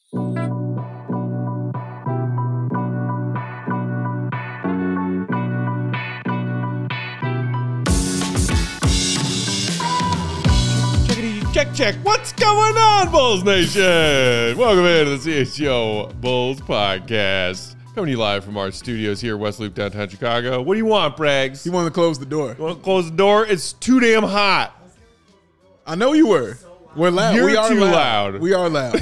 Check. What's going on, Bulls Nation? Welcome into the CHGO Bulls Podcast. Coming to you live from our studios here, West Loop, downtown Chicago. What do you want, Braggs? He wanted to close the door. You want to close the door? It's too damn hot. I know you were. We're loud. You're we are too loud. loud. We are loud.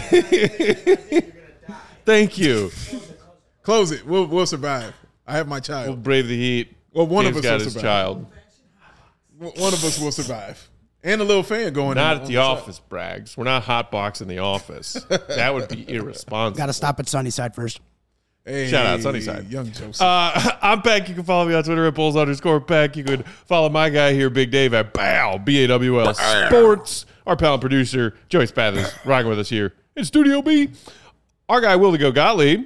Thank you. Close it. We'll survive. I have my child. We'll brave the heat. Well, one James of us got will his survive. child. One of us will survive. And a little fan going Not on at the office, Braggs. We're not hotboxing the office. That would be irresponsible. Got to stop at Sunnyside first. Hey, Shout out Sunnyside. Young Joseph. I'm Peck. You can follow me on Twitter at Bulls_Peck. You could follow my guy here, Big Dave, at BAWL Sports. Our pal and producer, Joey Spathers, rocking with us here in Studio B. Our guy, Will the Go Gottlieb,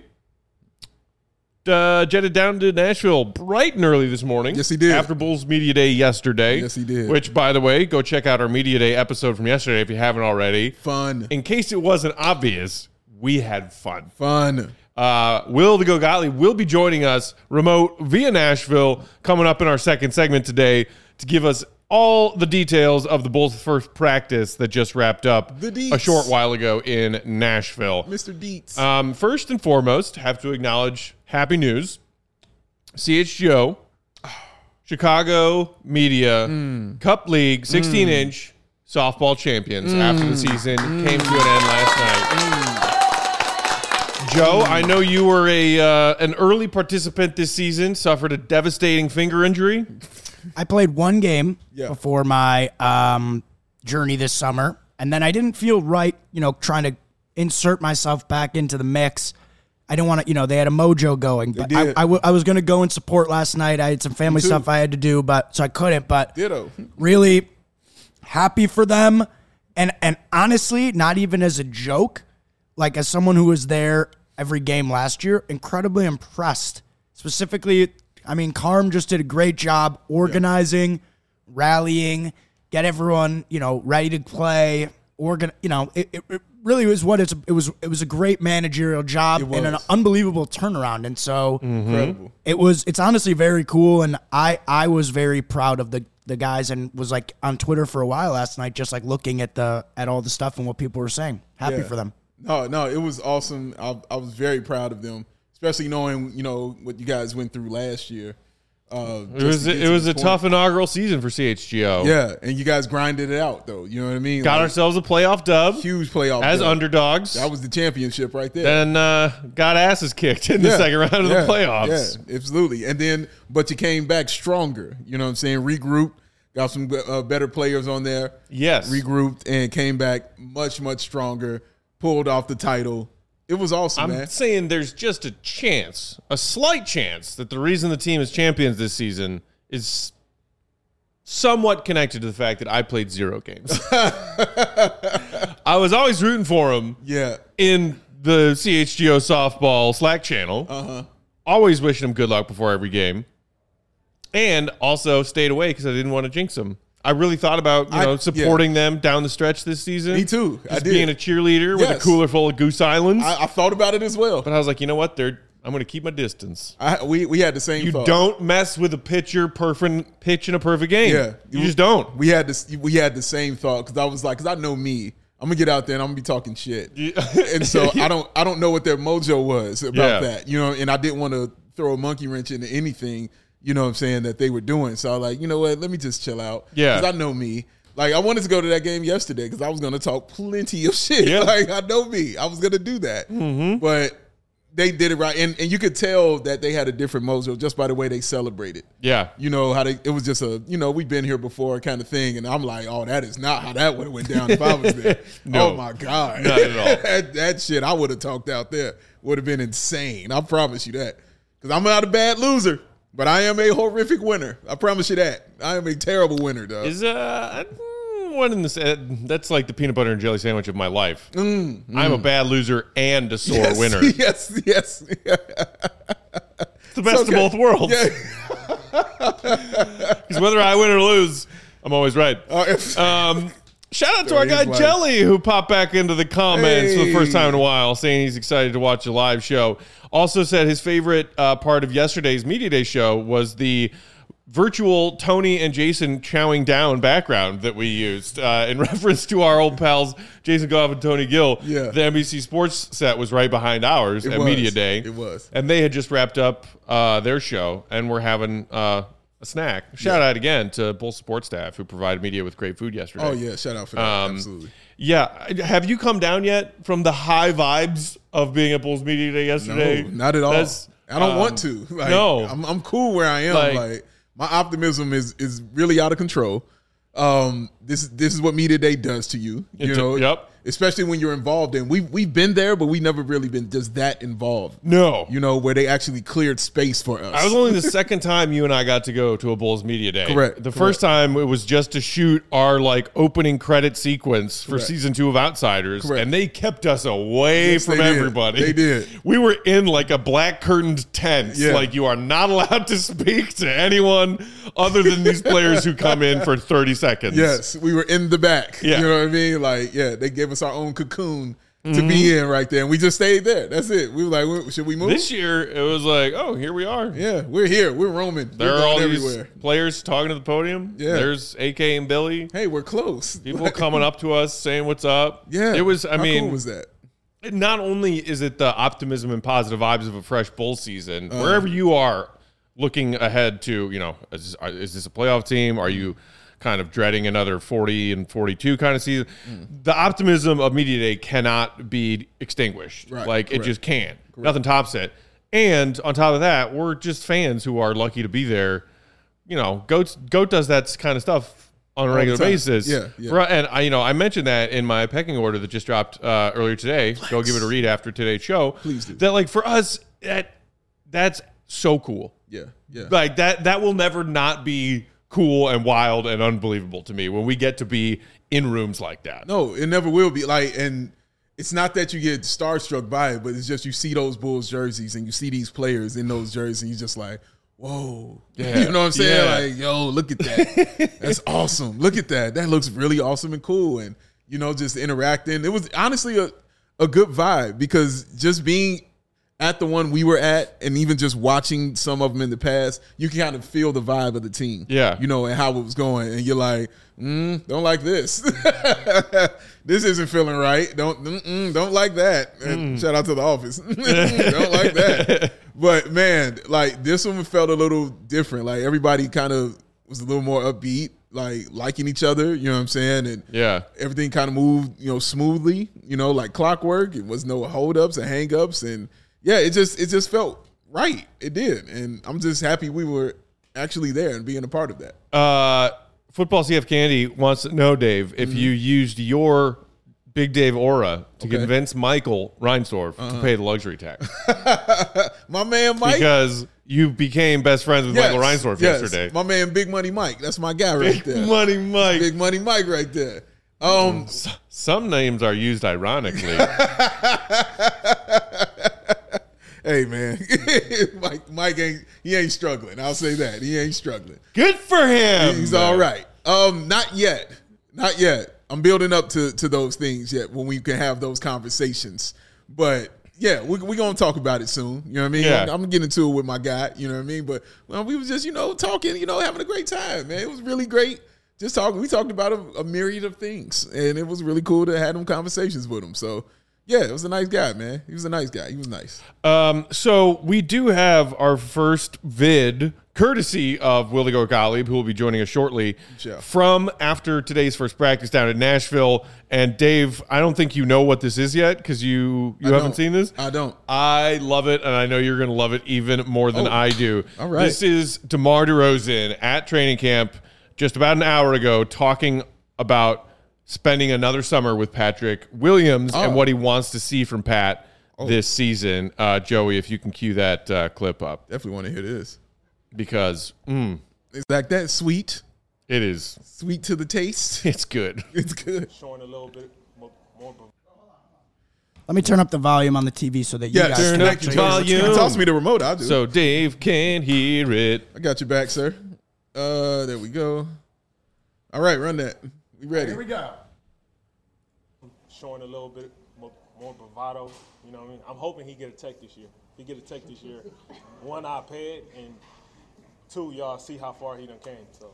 jetted down to Nashville bright and early this morning. Yes, he did. After Bulls Media Day yesterday. Yes, he did. Which, by the way, go check out our Media Day episode from yesterday if you haven't already. Fun. In case it wasn't obvious, we had fun. Fun. Will the Go Gottlieb will be joining us remote via Nashville coming up in our second segment today to give us all the details of the Bulls' first practice that just wrapped up The deets. a short while ago in Nashville. Mr. Dietz. First and foremost, have to acknowledge happy news. CHGO, Chicago Media, Cup League, 16-inch softball champions after the season came to an end last night. Joe, I know you were an early participant this season, suffered a devastating finger injury. I played one game Yeah. before my journey this summer, and then I didn't feel right, trying to insert myself back into the mix. I didn't want to, they had a mojo going, but did. I was going to go and support last night. I had some family too. stuff I had to do, so I couldn't, but Ditto. really happy for them. And honestly, not even as a joke, like as someone who was there every game last year, incredibly impressed. Specifically, Carm just did a great job organizing, rallying, get everyone, ready to play. It really was it was a great managerial job and an unbelievable turnaround. And so Incredible. it's honestly very cool. And I was very proud of the guys and was like on Twitter for a while last night, just like looking at all the stuff and what people were saying. Happy for them. No, it was awesome. I was very proud of them, especially knowing, what you guys went through last year. It was a tough inaugural season for CHGO. Yeah, and you guys grinded it out, though. You know what I mean? Got ourselves a playoff dub. huge playoff as dub. underdogs. That was the championship right there. Then got asses kicked in the second round of the playoffs. Yeah, absolutely. And then, but you came back stronger. You know what I'm saying? Regrouped, got some better players on there. Yes. Regrouped and came back much, much stronger. Pulled off the title. It was awesome, I'm man. saying there's just a slight chance, that the reason the team is champions this season is somewhat connected to the fact that I played 0 games. I was always rooting for him Yeah. in the CHGO softball Slack channel. Always wishing him good luck before every game. And also stayed away because I didn't want to jinx him. I really thought about, supporting them down the stretch this season. Me too. I Just did. being a cheerleader with a Yes. cooler full of Goose Islands. I thought about it as well. But I was like, you know what? I'm going to keep my distance. We had the same You thought. don't mess with a pitcher pitch in a perfect game. Yeah. You just don't. We had the same thought because I was like, because I know me. I'm gonna get out there and I'm gonna be talking shit. And so I don't know what their mojo was about that. And I didn't want to throw a monkey wrench into anything, what I'm saying, that they were doing. So I was like, you know what, let me just chill out. Yeah. Because I know me. Like, I wanted to go to that game yesterday because I was going to talk plenty of shit. Yeah. Like, I know me. I was going to do that. Mm-hmm. But they did it right. And you could tell that they had a different mojo just by the way they celebrated. Yeah. How it was just we've been here before kind of thing. And I'm like, oh, that is not how that would have went down if I was there. No. Oh, my God. Not at all. that shit I would have talked out there would have been insane. I promise you that. Because I'm not a bad loser. But I am a horrific winner. I promise you that. I am a terrible winner, though. Is one in the that's like the peanut butter and jelly sandwich of my life. I'm a bad loser and a sore winner. Yes. It's the best of both worlds. Yeah. Because whether I win or lose, I'm always right. Shout out to our guy Jelly, who popped back into the comments for the first time in a while, saying he's excited to watch the live show. Also said his favorite part of yesterday's Media Day show was the virtual Tony and Jason chowing down background that we used in reference to our old pals Jason Goff and Tony Gill. Yeah. The NBC Sports set was right behind ours at Media Day. It was. And they had just wrapped up their show, and we're having a snack. Shout out again to Bulls support staff who provided media with great food yesterday. Oh, yeah. Shout out for that. Absolutely. Yeah. Have you come down yet from the high vibes of being at Bulls Media Day yesterday? No, not at all. I don't want to. Like, no. I'm cool where I am. Like my optimism is really out of control. This is what Media Day does to you. You know, yep. Especially when you're involved in. We've been there, but we never really been just that involved. No, you know, where they actually cleared space for us. I was only the second time you and I got to go to a Bulls Media Day. Correct. The first time it was just to shoot our opening credit sequence for season 2 of Outsiders, and they kept us away from everybody. They did. We were in a black curtained tent. Yeah. You are not allowed to speak to anyone other than these players who come in for 30 seconds. Yes, we were in the back. Yeah. You know what I mean? They gave us our own cocoon to be in right there, and we just stayed there. That's it. We were like, should we move? This year, it was oh, here we are. Yeah, we're here. We're roaming. There are all everywhere. these players talking to the podium. Yeah. There's AK and Billy. Hey, we're close. People coming up to us saying what's up. Yeah. It was, How cool was that? Not only is it the optimism and positive vibes of a fresh Bull season, wherever you are looking ahead to, is this a playoff team? Are you kind of dreading another 40 and 42 kind of season? The optimism of Media Day cannot be extinguished. Right, it just can't. Nothing tops it. And on top of that, we're just fans who are lucky to be there. Goat does that kind of stuff on a regular basis. Yeah. And I mentioned that in my pecking order that just dropped earlier today. Go give it a read after today's show. Please do. That for us, that's so cool. Yeah. That will never not be cool and wild and unbelievable to me when we get to be in rooms like that. No, it never will be. And it's not that you get starstruck by it, but it's just you see those Bulls jerseys and you see these players in those jerseys and you're just like, whoa. Yeah. You know what I'm saying? Yeah. Yo, look at that. That's awesome. Look at that. That looks really awesome and cool. And, just interacting. It was honestly a good vibe because just being at the one we were at and even just watching some of them in the past, you can kind of feel the vibe of the team. Yeah. And how it was going. And you're like, don't like this. This isn't feeling right. Don't like that. And shout out to The Office. Don't like that. But man, this one felt a little different. Everybody kind of was a little more upbeat, liking each other, you know what I'm saying? And everything kind of moved, smoothly, like clockwork. It was no holdups and hangups. And yeah, it just felt right. It did. And I'm just happy we were actually there and being a part of that. Football CF Candy wants to know, Dave, if you used your Big Dave aura to convince Michael Reinsdorf to pay the luxury tax. My man Mike. Because you became best friends with Michael Reinsdorf yesterday. My man Big Money Mike. That's my guy right there. Big Money Mike. Big Money Mike right there. Some names are used ironically. Hey man, Mike ain't struggling. I'll say that. He ain't struggling. Good for him. He's all right. Not yet. I'm building up to those things yet when we can have those conversations. But yeah, we're gonna talk about it soon. You know what I mean? Yeah. I'm getting into it with my guy, you know what I mean? But we was just, talking, having a great time, man. It was really great. Just talking. We talked about a myriad of things. And it was really cool to have them conversations with him. So yeah, it was a nice guy, man. He was a nice guy. He was nice. So we do have our first vid, courtesy of Willie Gottlieb, who will be joining us shortly, from after today's first practice down in Nashville. And Dave, I don't think you know what this is yet because you haven't seen this. I don't. I love it, and I know you're going to love it even more than I do. All right. This is DeMar DeRozan at training camp just about an hour ago talking about spending another summer with Patrick Williams and what he wants to see from Pat this season. Joey, if you can cue that clip up. Definitely want to hear this. Because it's like that sweet. It is. Sweet to the taste. It's good. It's good. Showing a little bit more. Let me turn up the volume on the TV so that you guys turn can up actually the hear what's volume. going on. Toss me the remote. I'll do So Dave can hear it. I got your back, sir. There we go. All right, run that. We ready. Here we go. showing a little bit more bravado. You know what I mean? I'm hoping he get a tech this year. If he get a tech this year, 1, I'll pay it, and 2, y'all see how far he done came. So.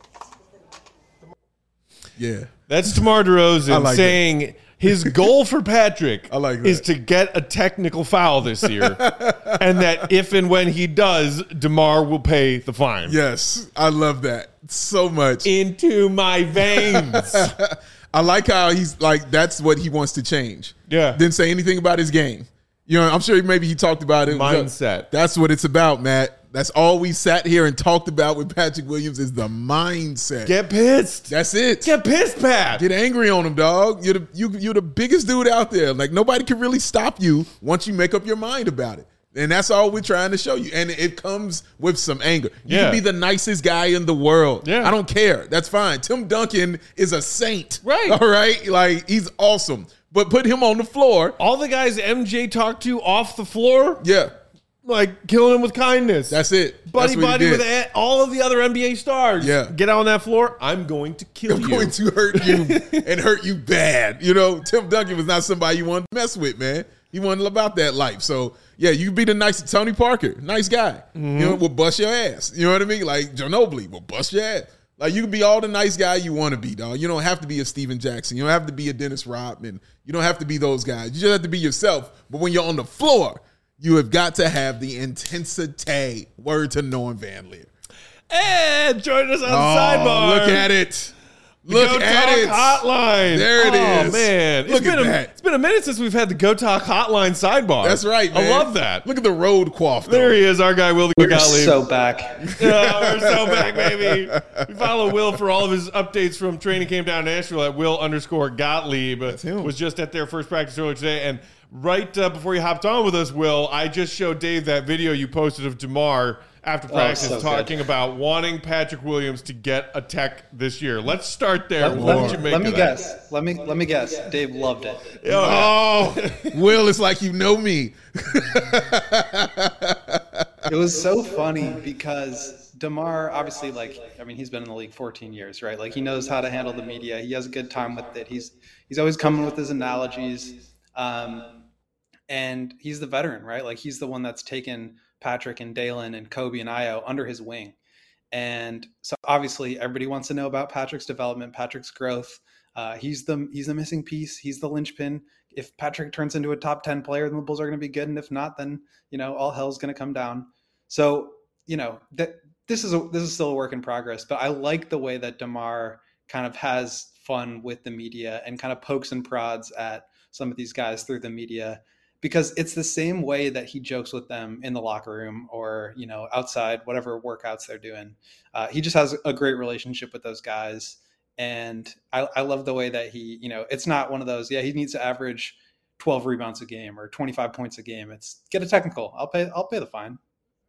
Yeah. That's DeMar DeRozan saying his goal for Patrick is to get a technical foul this year, and that if and when he does, DeMar will pay the fine. Yes, I love that so much. Into my veins. I like how he's like, that's what he wants to change. Yeah. Didn't say anything about his game. You know, I'm sure maybe he talked about it. Mindset. That's what it's about, Matt. That's all we sat here and talked about with Patrick Williams is the mindset. Get pissed. That's it. Get pissed, Pat. Get angry on him, dog. You're the biggest dude out there. Like, nobody can really stop you once you make up your mind about it. And that's all we're trying to show you. And it comes with some anger. You can be the nicest guy in the world. Yeah. I don't care. That's fine. Tim Duncan is a saint. Right. All right? Like, he's awesome. But put him on the floor. All the guys MJ talked to off the floor, Yeah. like killing him with kindness. That's it. Buddy That's what he with did. all of the other NBA stars. Yeah. Get out on that floor. I'm going to kill you. I'm going to hurt you and hurt you bad. You know, Tim Duncan was not somebody you wanted to mess with, man. He wasn't about that life. So, yeah, you be the nice Tony Parker, nice guy. You know, will bust your ass. You know what I mean? Like Ginobili will bust your ass. Like, you can be all the nice guy you want to be, dog. You don't have to be a Steven Jackson. You don't have to be a Dennis Rodman. You don't have to be those guys. You just have to be yourself. But when you're on the floor, you have got to have the intensity. Word to Norm Van Leer. And join us on the sidebar. Look at it. Look at it. Hotline. There it is. Oh, man. Look at that. It's been a minute since we've had the Go Talk Hotline sidebar. That's right, man. I love that. Look at the road quaff, though. There he is, our guy, Will the We're Gottlieb. so back. We're so back, baby. We follow Will for all of his updates from training camp down in Nashville at Will_Gottlieb. That's him. Was just at their first practice earlier today. And right before you hopped on with us, Will, I just showed Dave that video you posted of DeMar after practice talking about wanting Patrick Williams to get a tech this year. Let's start there. Let me guess. Let me guess. Dave loved it. Oh, Will, it's like you know me. It was so funny because DeMar, obviously, he's been in the league 14 years, right? Like, he knows how to handle the media. He has a good time with it. He's always coming with his analogies. And he's the veteran, right? Like, he's the one that's taken Patrick and Dalen and Kobe and Io under his wing. And so obviously everybody wants to know about Patrick's development, Patrick's growth. He's the missing piece. He's the linchpin. If Patrick turns into a top 10 player, then the Bulls are going to be good. And if not, then, all hell's going to come down. So, this is still a work in progress, but I like the way that DeMar kind of has fun with the media and kind of pokes and prods at some of these guys through the media, because it's the same way that he jokes with them in the locker room or, outside, whatever workouts they're doing. He just has a great relationship with those guys. And I love the way that he, it's not one of those, he needs to average 12 rebounds a game or 25 points a game. It's get a technical. I'll pay the fine.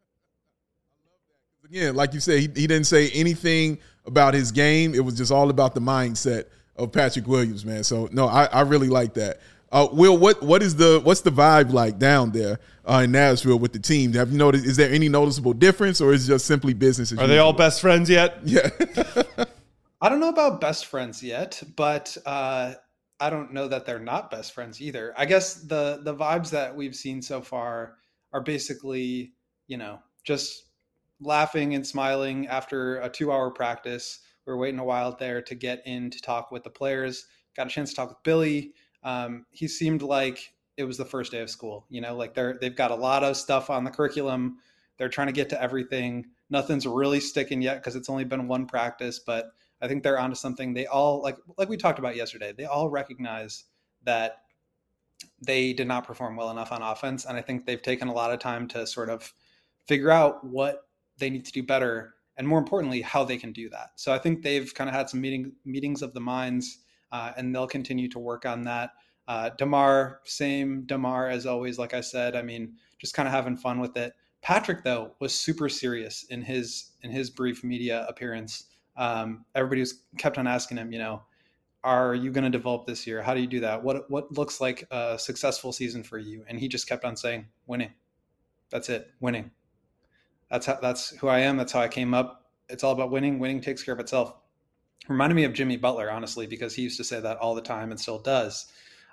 Again, like you said, he didn't say anything about his game. It was just all about the mindset of Patrick Williams, man. So no, I really like that. Will, what's the vibe like down there in Nashville with the team? Have you noticed? Is there any noticeable difference, or is it just simply business as usual? Are they all best friends yet? Yeah. I don't know about best friends yet, but I don't know that they're not best friends either. I guess the vibes that we've seen so far are basically, just laughing and smiling after a 2-hour practice. We were waiting a while there to get in to talk with the players. Got a chance to talk with Billy. He seemed like it was the first day of school, like they've got a lot of stuff on the curriculum. They're trying to get to everything. Nothing's really sticking yet because it's only been one practice, but I think they're onto something. They all, like we talked about yesterday, they all recognize that they did not perform well enough on offense. And I think they've taken a lot of time to sort of figure out what they need to do better, and more importantly, how they can do that. So I think they've kind of had some meetings of the minds, and they'll continue to work on that. DeMar, same DeMar as always. Like I said, just kind of having fun with it. Patrick, though, was super serious in his brief media appearance. Everybody kept on asking him, are you going to develop this year? How do you do that? What looks like a successful season for you? And he just kept on saying, winning. That's it, winning. That's who I am. That's how I came up. It's all about winning. Winning takes care of itself. Reminded me of Jimmy Butler, honestly, because he used to say that all the time and still does.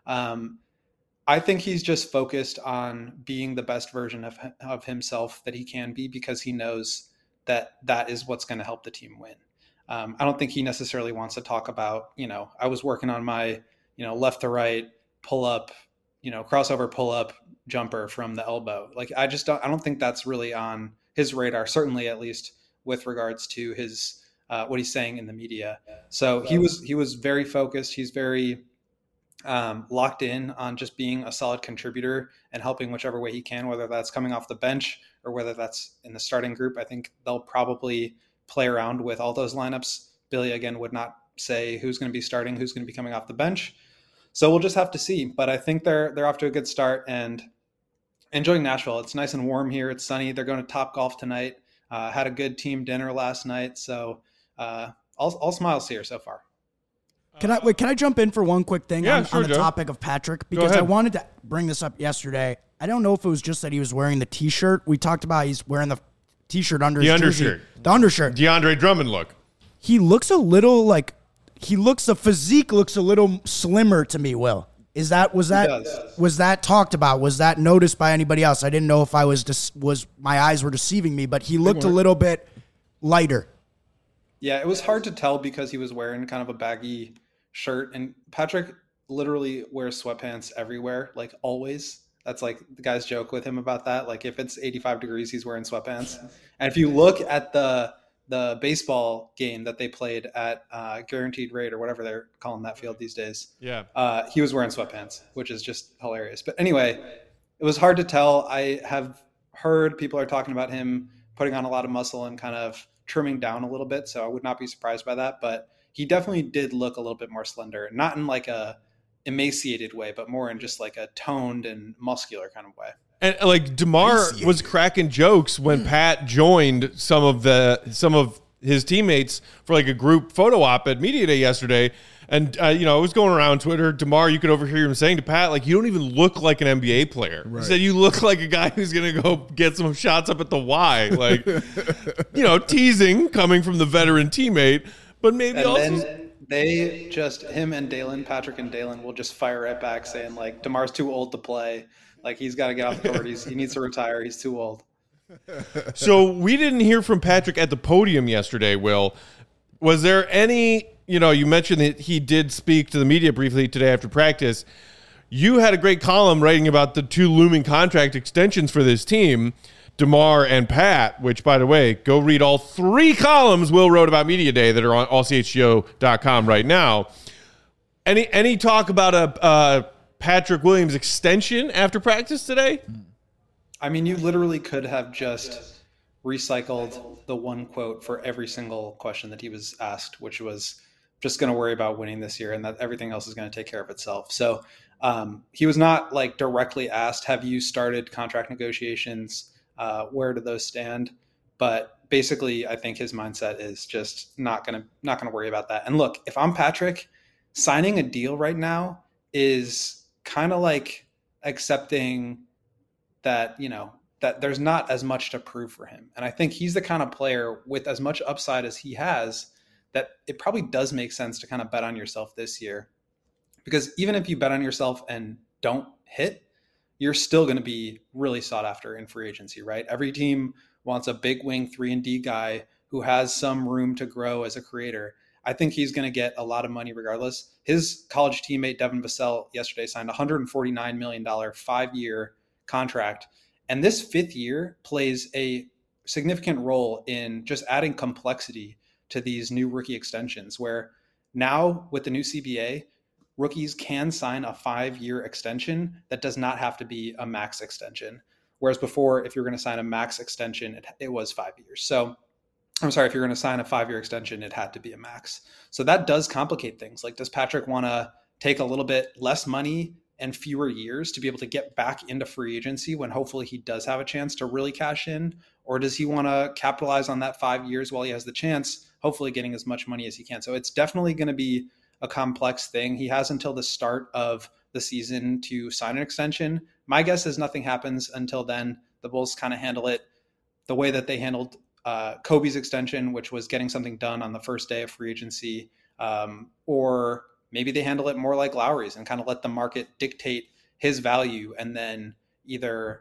I think he's just focused on being the best version of himself that he can be, because he knows that that is what's going to help the team win. I don't think he necessarily wants to talk about, I was working on my, left to right pull up, crossover pull up jumper from the elbow. Like, I don't think that's really on his radar, certainly at least with regards to his, what he's saying in the media. So he was very focused. He's very locked in on just being a solid contributor and helping whichever way he can, whether that's coming off the bench or whether that's in the starting group. I think they'll probably play around with all those lineups. Billy, again, would not say who's going to be starting, who's going to be coming off the bench. So we'll just have to see. But I think they're off to a good start and enjoying Nashville. It's nice and warm here. It's sunny. They're going to Topgolf tonight. Had a good team dinner last night. So all smiles here so far. Can I jump in for one quick thing on the Joe. topic of Patrick? Because I wanted to bring this up yesterday. I don't know if it was just that he was wearing the T-shirt. We talked about he's wearing the T-shirt under his jersey. The undershirt. DeAndre Drummond look. He looks a little the physique looks a little slimmer to me, Will. Was that talked about? Was that noticed by anybody else? I didn't know if I was my eyes were deceiving me, but he looked a little bit lighter. Yeah, it was hard to tell because he was wearing kind of a baggy shirt, and Patrick literally wears sweatpants everywhere, like always. That's like the guys joke with him about that. Like if it's 85 degrees, he's wearing sweatpants. And if you look at the baseball game that they played at Guaranteed Rate or whatever they're calling that field these days, he was wearing sweatpants, which is just hilarious. But anyway, it was hard to tell. I have heard people are talking about him putting on a lot of muscle and kind of trimming down a little bit, so I would not be surprised by that. But he definitely did look a little bit more slender, not in like a emaciated way, but more in just like a toned and muscular kind of way. And like DeMar was cracking jokes when Pat joined some of his teammates for like a group photo op at Media Day yesterday. And, I was going around Twitter. DeMar, you could overhear him saying to Pat, like, you don't even look like an NBA player. Right. He said, you look like a guy who's going to go get some shots up at the Y. Like, teasing coming from the veteran teammate. But maybe then they just, him and Dalen, Patrick and Dalen, will just fire right back saying, like, DeMar's too old to play. Like, he's got to get off the court. He needs to retire. He's too old. So we didn't hear from Patrick at the podium yesterday, Will. Was there any... you mentioned that he did speak to the media briefly today after practice. You had a great column writing about the two looming contract extensions for this team, DeMar and Pat, which, by the way, go read all 3 columns Will wrote about Media Day that are on allchgo.com right now. Any talk about a Patrick Williams extension after practice today? I mean, you literally could have just recycled the one quote for every single question that he was asked, which was just going to worry about winning this year and that everything else is going to take care of itself. So he was not like directly asked, have you started contract negotiations? Where do those stand? But basically, I think his mindset is just not going to worry about that. And look, if I'm Patrick, signing a deal right now is kind of like accepting that, that there's not as much to prove for him. And I think he's the kind of player with as much upside as he has that it probably does make sense to kind of bet on yourself this year. Because even if you bet on yourself and don't hit, you're still going to be really sought after in free agency, right? Every team wants a big wing 3-and-D guy who has some room to grow as a creator. I think he's going to get a lot of money regardless. His college teammate, Devin Vassell, yesterday signed a $149 million 5-year contract. And this 5th year plays a significant role in just adding complexity to these new rookie extensions, where now with the new CBA, rookies can sign a 5-year extension that does not have to be a max extension. Whereas before, if you're going to sign a max extension, it was 5 years. So I'm sorry, if you're going to sign a 5-year extension, it had to be a max. So that does complicate things. Like, does Patrick want to take a little bit less money and fewer years to be able to get back into free agency when hopefully he does have a chance to really cash in? Or does he want to capitalize on that 5 years while he has the chance, hopefully getting as much money as he can? So it's definitely going to be a complex thing. He has until the start of the season to sign an extension. My guess is nothing happens until then. The Bulls kind of handle it the way that they handled Kobe's extension, which was getting something done on the first day of free agency, or maybe they handle it more like Lowry's and kind of let the market dictate his value, and then either,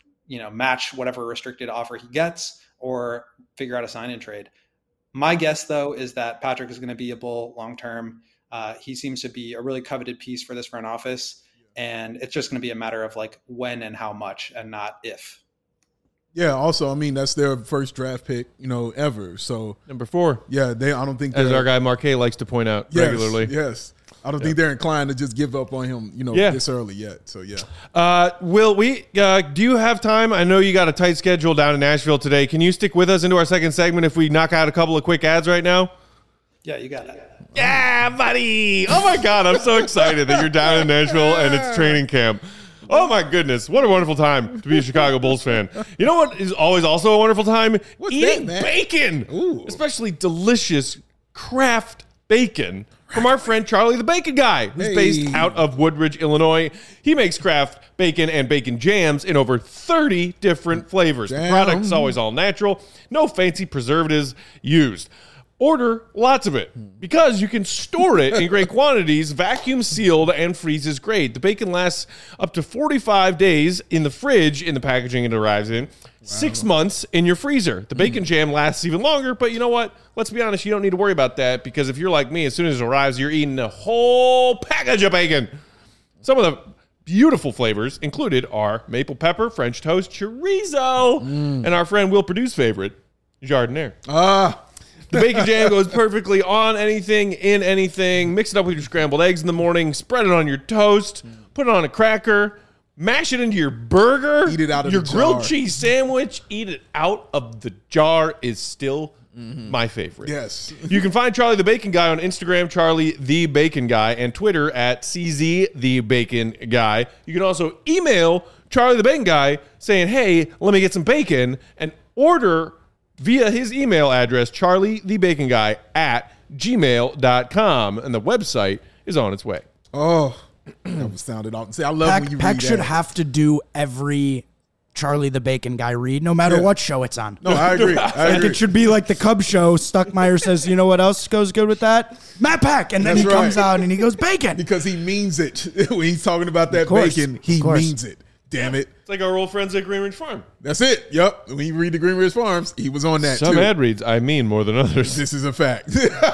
match whatever restricted offer he gets or figure out a sign and trade. My guess, though, is that Patrick is going to be a Bull long-term. He seems to be a really coveted piece for this front office, and it's just going to be a matter of like when and how much, and not if. Yeah. Also, I mean, that's their first draft pick, ever. So Number 4. yeah, I don't think As our guy Marquet likes to point out regularly. Yes. I don't think they're inclined to just give up on him, this early yet. So yeah. Will, do you have time? I know you got a tight schedule down in Nashville today. Can you stick with us into our second segment if we knock out a couple of quick ads right now? Yeah, you got it. Yeah, buddy. Oh my God, I'm so excited that you're down in Nashville and it's training camp. Oh my goodness, what a wonderful time to be a Chicago Bulls fan. You know what is always also a wonderful time? Eating bacon. Ooh. Especially delicious craft bacon from our friend Charlie the Bacon Guy, who's based out of Woodridge, Illinois. He makes craft bacon and bacon jams in over 30 different flavors. The product's always all natural, no fancy preservatives used. Order lots of it because you can store it in great quantities, vacuum sealed, and freezes great. The bacon lasts up to 45 days in the fridge in the packaging it arrives in, 6 months in your freezer. The bacon jam lasts even longer, but you know what? Let's be honest, you don't need to worry about that because if you're like me, as soon as it arrives, you're eating a whole package of bacon. Some of the beautiful flavors included are maple pepper, French toast, chorizo, and our friend Will Purdue's favorite, Jardiniere. The bacon jam goes perfectly on anything, in anything. Mix it up with your scrambled eggs in the morning. Spread it on your toast. Put it on a cracker. Mash it into your burger. Eat it out of your the grilled jar. cheese sandwich. Eat it out of the jar is still my favorite. Yes. You can find Charlie the Bacon Guy on Instagram, Charlie the Bacon Guy, and Twitter at CZ the Bacon Guy. You can also email Charlie the Bacon Guy saying, hey, let me get some bacon, and order via his email address, charliethebaconguy at gmail.com. And the website is on its way. Oh, that sounded awesome. See, I love when you Peck read should that. have to do every Charlie the Bacon Guy read, no matter what show it's on. No, I agree. Like it should be like the Cubs show. Stuckmeyer says, you know what else goes good with that? Matt Peck. And then That's he comes right. out and he goes, bacon. Because he means it. When he's talking about that course, bacon, he of course. means it. Damn it. It's like our old friends at Green Ridge Farm. That's it. Yep. When you read the Green Ridge Farms, he was on that Some too. ad reads, I mean more than others. This is a fact.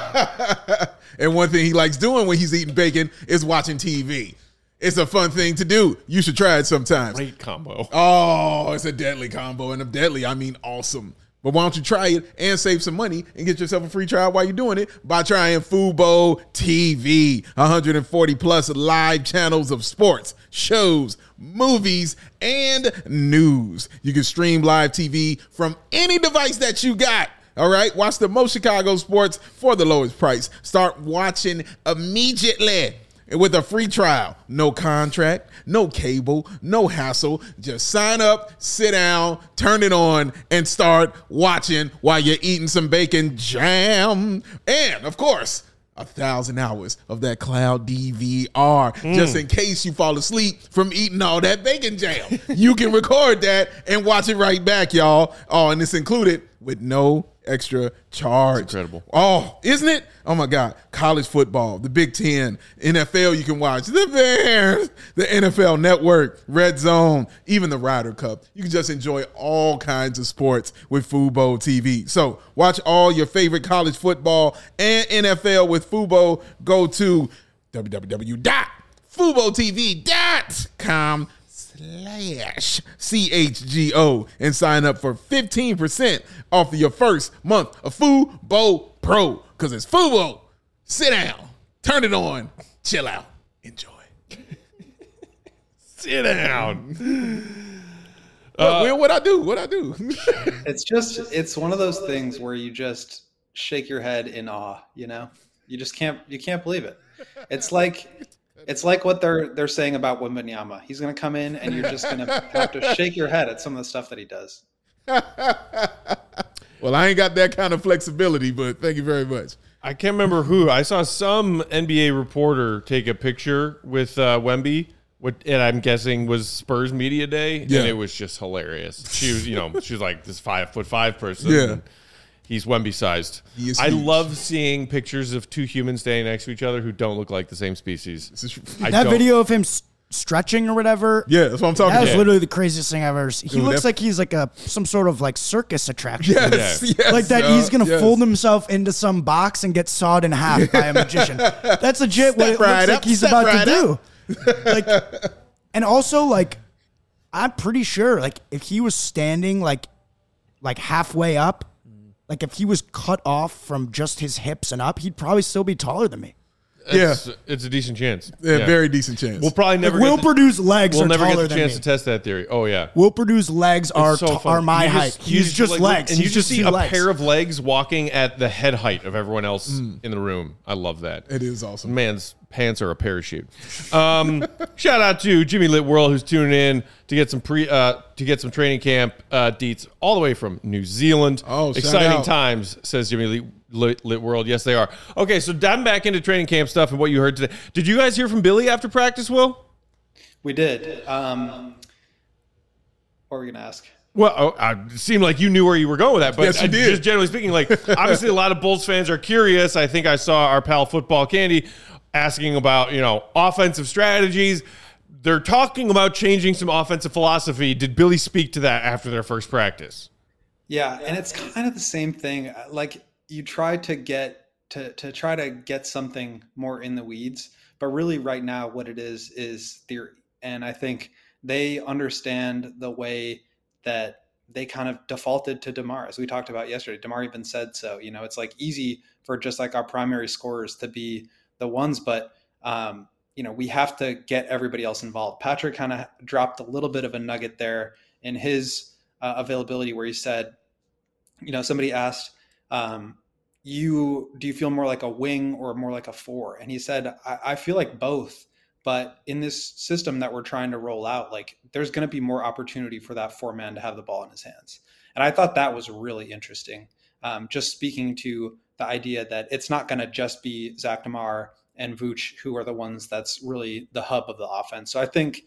And one thing he likes doing when he's eating bacon is watching TV. It's a fun thing to do. You should try it sometimes. Great combo. Oh, it's a deadly combo. And of deadly, I mean awesome. But why don't you try it and save some money and get yourself a free trial while you're doing it by trying Fubo TV. 140 plus live channels of sports, shows, movies, and news. You can stream live TV from any device that you got. All right, watch the most Chicago sports for the lowest price. Start watching immediately with a free trial. No contract, no cable, no hassle. Just sign up, sit down, turn it on, and start watching while you're eating some bacon jam. And, of course, 1,000 hours of that cloud DVR, just in case you fall asleep from eating all that bacon jam. You can record that and watch it right back, y'all. Oh, and it's included with no extra charge. That's incredible. Oh, isn't it? Oh my God. College football, the Big Ten, NFL you can watch, the Bears, the NFL Network, Red Zone, even the Ryder Cup. You can just enjoy all kinds of sports with Fubo TV. So watch all your favorite college football and NFL with Fubo. Go to www.FuboTV.com/CHGO and sign up for 15% off of your first month of Fubo Pro. Because it's Fubo. Sit down, turn it on, chill out, enjoy. Sit down. What I do? It's one of those things where you just shake your head in awe, you know? You can't believe it. It's like what they're saying about Wembanyama. He's going to come in and you're just going to have to shake your head at some of the stuff that he does. Well, I ain't got that kind of flexibility, but thank you very much. I can't remember who. I saw some NBA reporter take a picture with Wemby, and I'm guessing was Spurs Media Day, Yeah. and it was just hilarious. She was, she was like this 5'5" person. Yeah. He's Wemby sized. He is I huge. love seeing pictures of two humans standing next to each other who don't look like the same species. That video of him stretching or whatever. Yeah, that's what I'm talking That was about. literally the craziest thing I've ever seen. He Dude, looks like he's like some sort of like circus attraction. Yes, yes, Like that he's going to fold himself into some box and get sawed in half by a magician. That's legit what it looks like he's about to do. Like, and also like, I'm pretty sure like if he was standing like halfway up, like if he was cut off from just his hips and up, he'd probably still be taller than me. It's a decent chance. Yeah, very decent chance. We'll probably never. Will Purdue's legs We'll are never taller get the than chance me. to test that theory. Oh yeah. Will Purdue's legs are funny. my height. He's just like, legs. and He's you just see two a legs. pair of legs walking at the head height of everyone else in the room. I love that. It is awesome. Man's pants are a parachute. Shout out to Jimmy Lit World who's tuning in to get some training camp deets all the way from New Zealand. Oh, shout exciting out. times, says Jimmy Lit World. Yes, they are. Okay, so diving back into training camp stuff and what you heard today. Did you guys hear from Billy after practice, Will? We did. What were we going to ask? Well, it seemed like you knew where you were going with that, but Yes, you did. Just generally speaking, like obviously a lot of Bulls fans are curious. I think I saw our pal Football Candy asking about, offensive strategies. They're talking about changing some offensive philosophy. Did Billy speak to that after their first practice? Yeah, and it's kind of the same thing. Like you try to get try to get something more in the weeds, but really right now what it is theory. And I think they understand the way that they kind of defaulted to DeMar, as we talked about yesterday. DeMar even said so. It's like easy for just like our primary scorers to be the ones, but we have to get everybody else involved. Patrick kind of dropped a little bit of a nugget there in his availability where he said, somebody asked, do you feel more like a wing or more like a four? And he said, I feel like both, but in this system that we're trying to roll out, like there's going to be more opportunity for that four man to have the ball in his hands. And I thought that was really interesting. Just speaking to the idea that it's not going to just be Zach DeMar and Vooch who are the ones that's really the hub of the offense. So I think,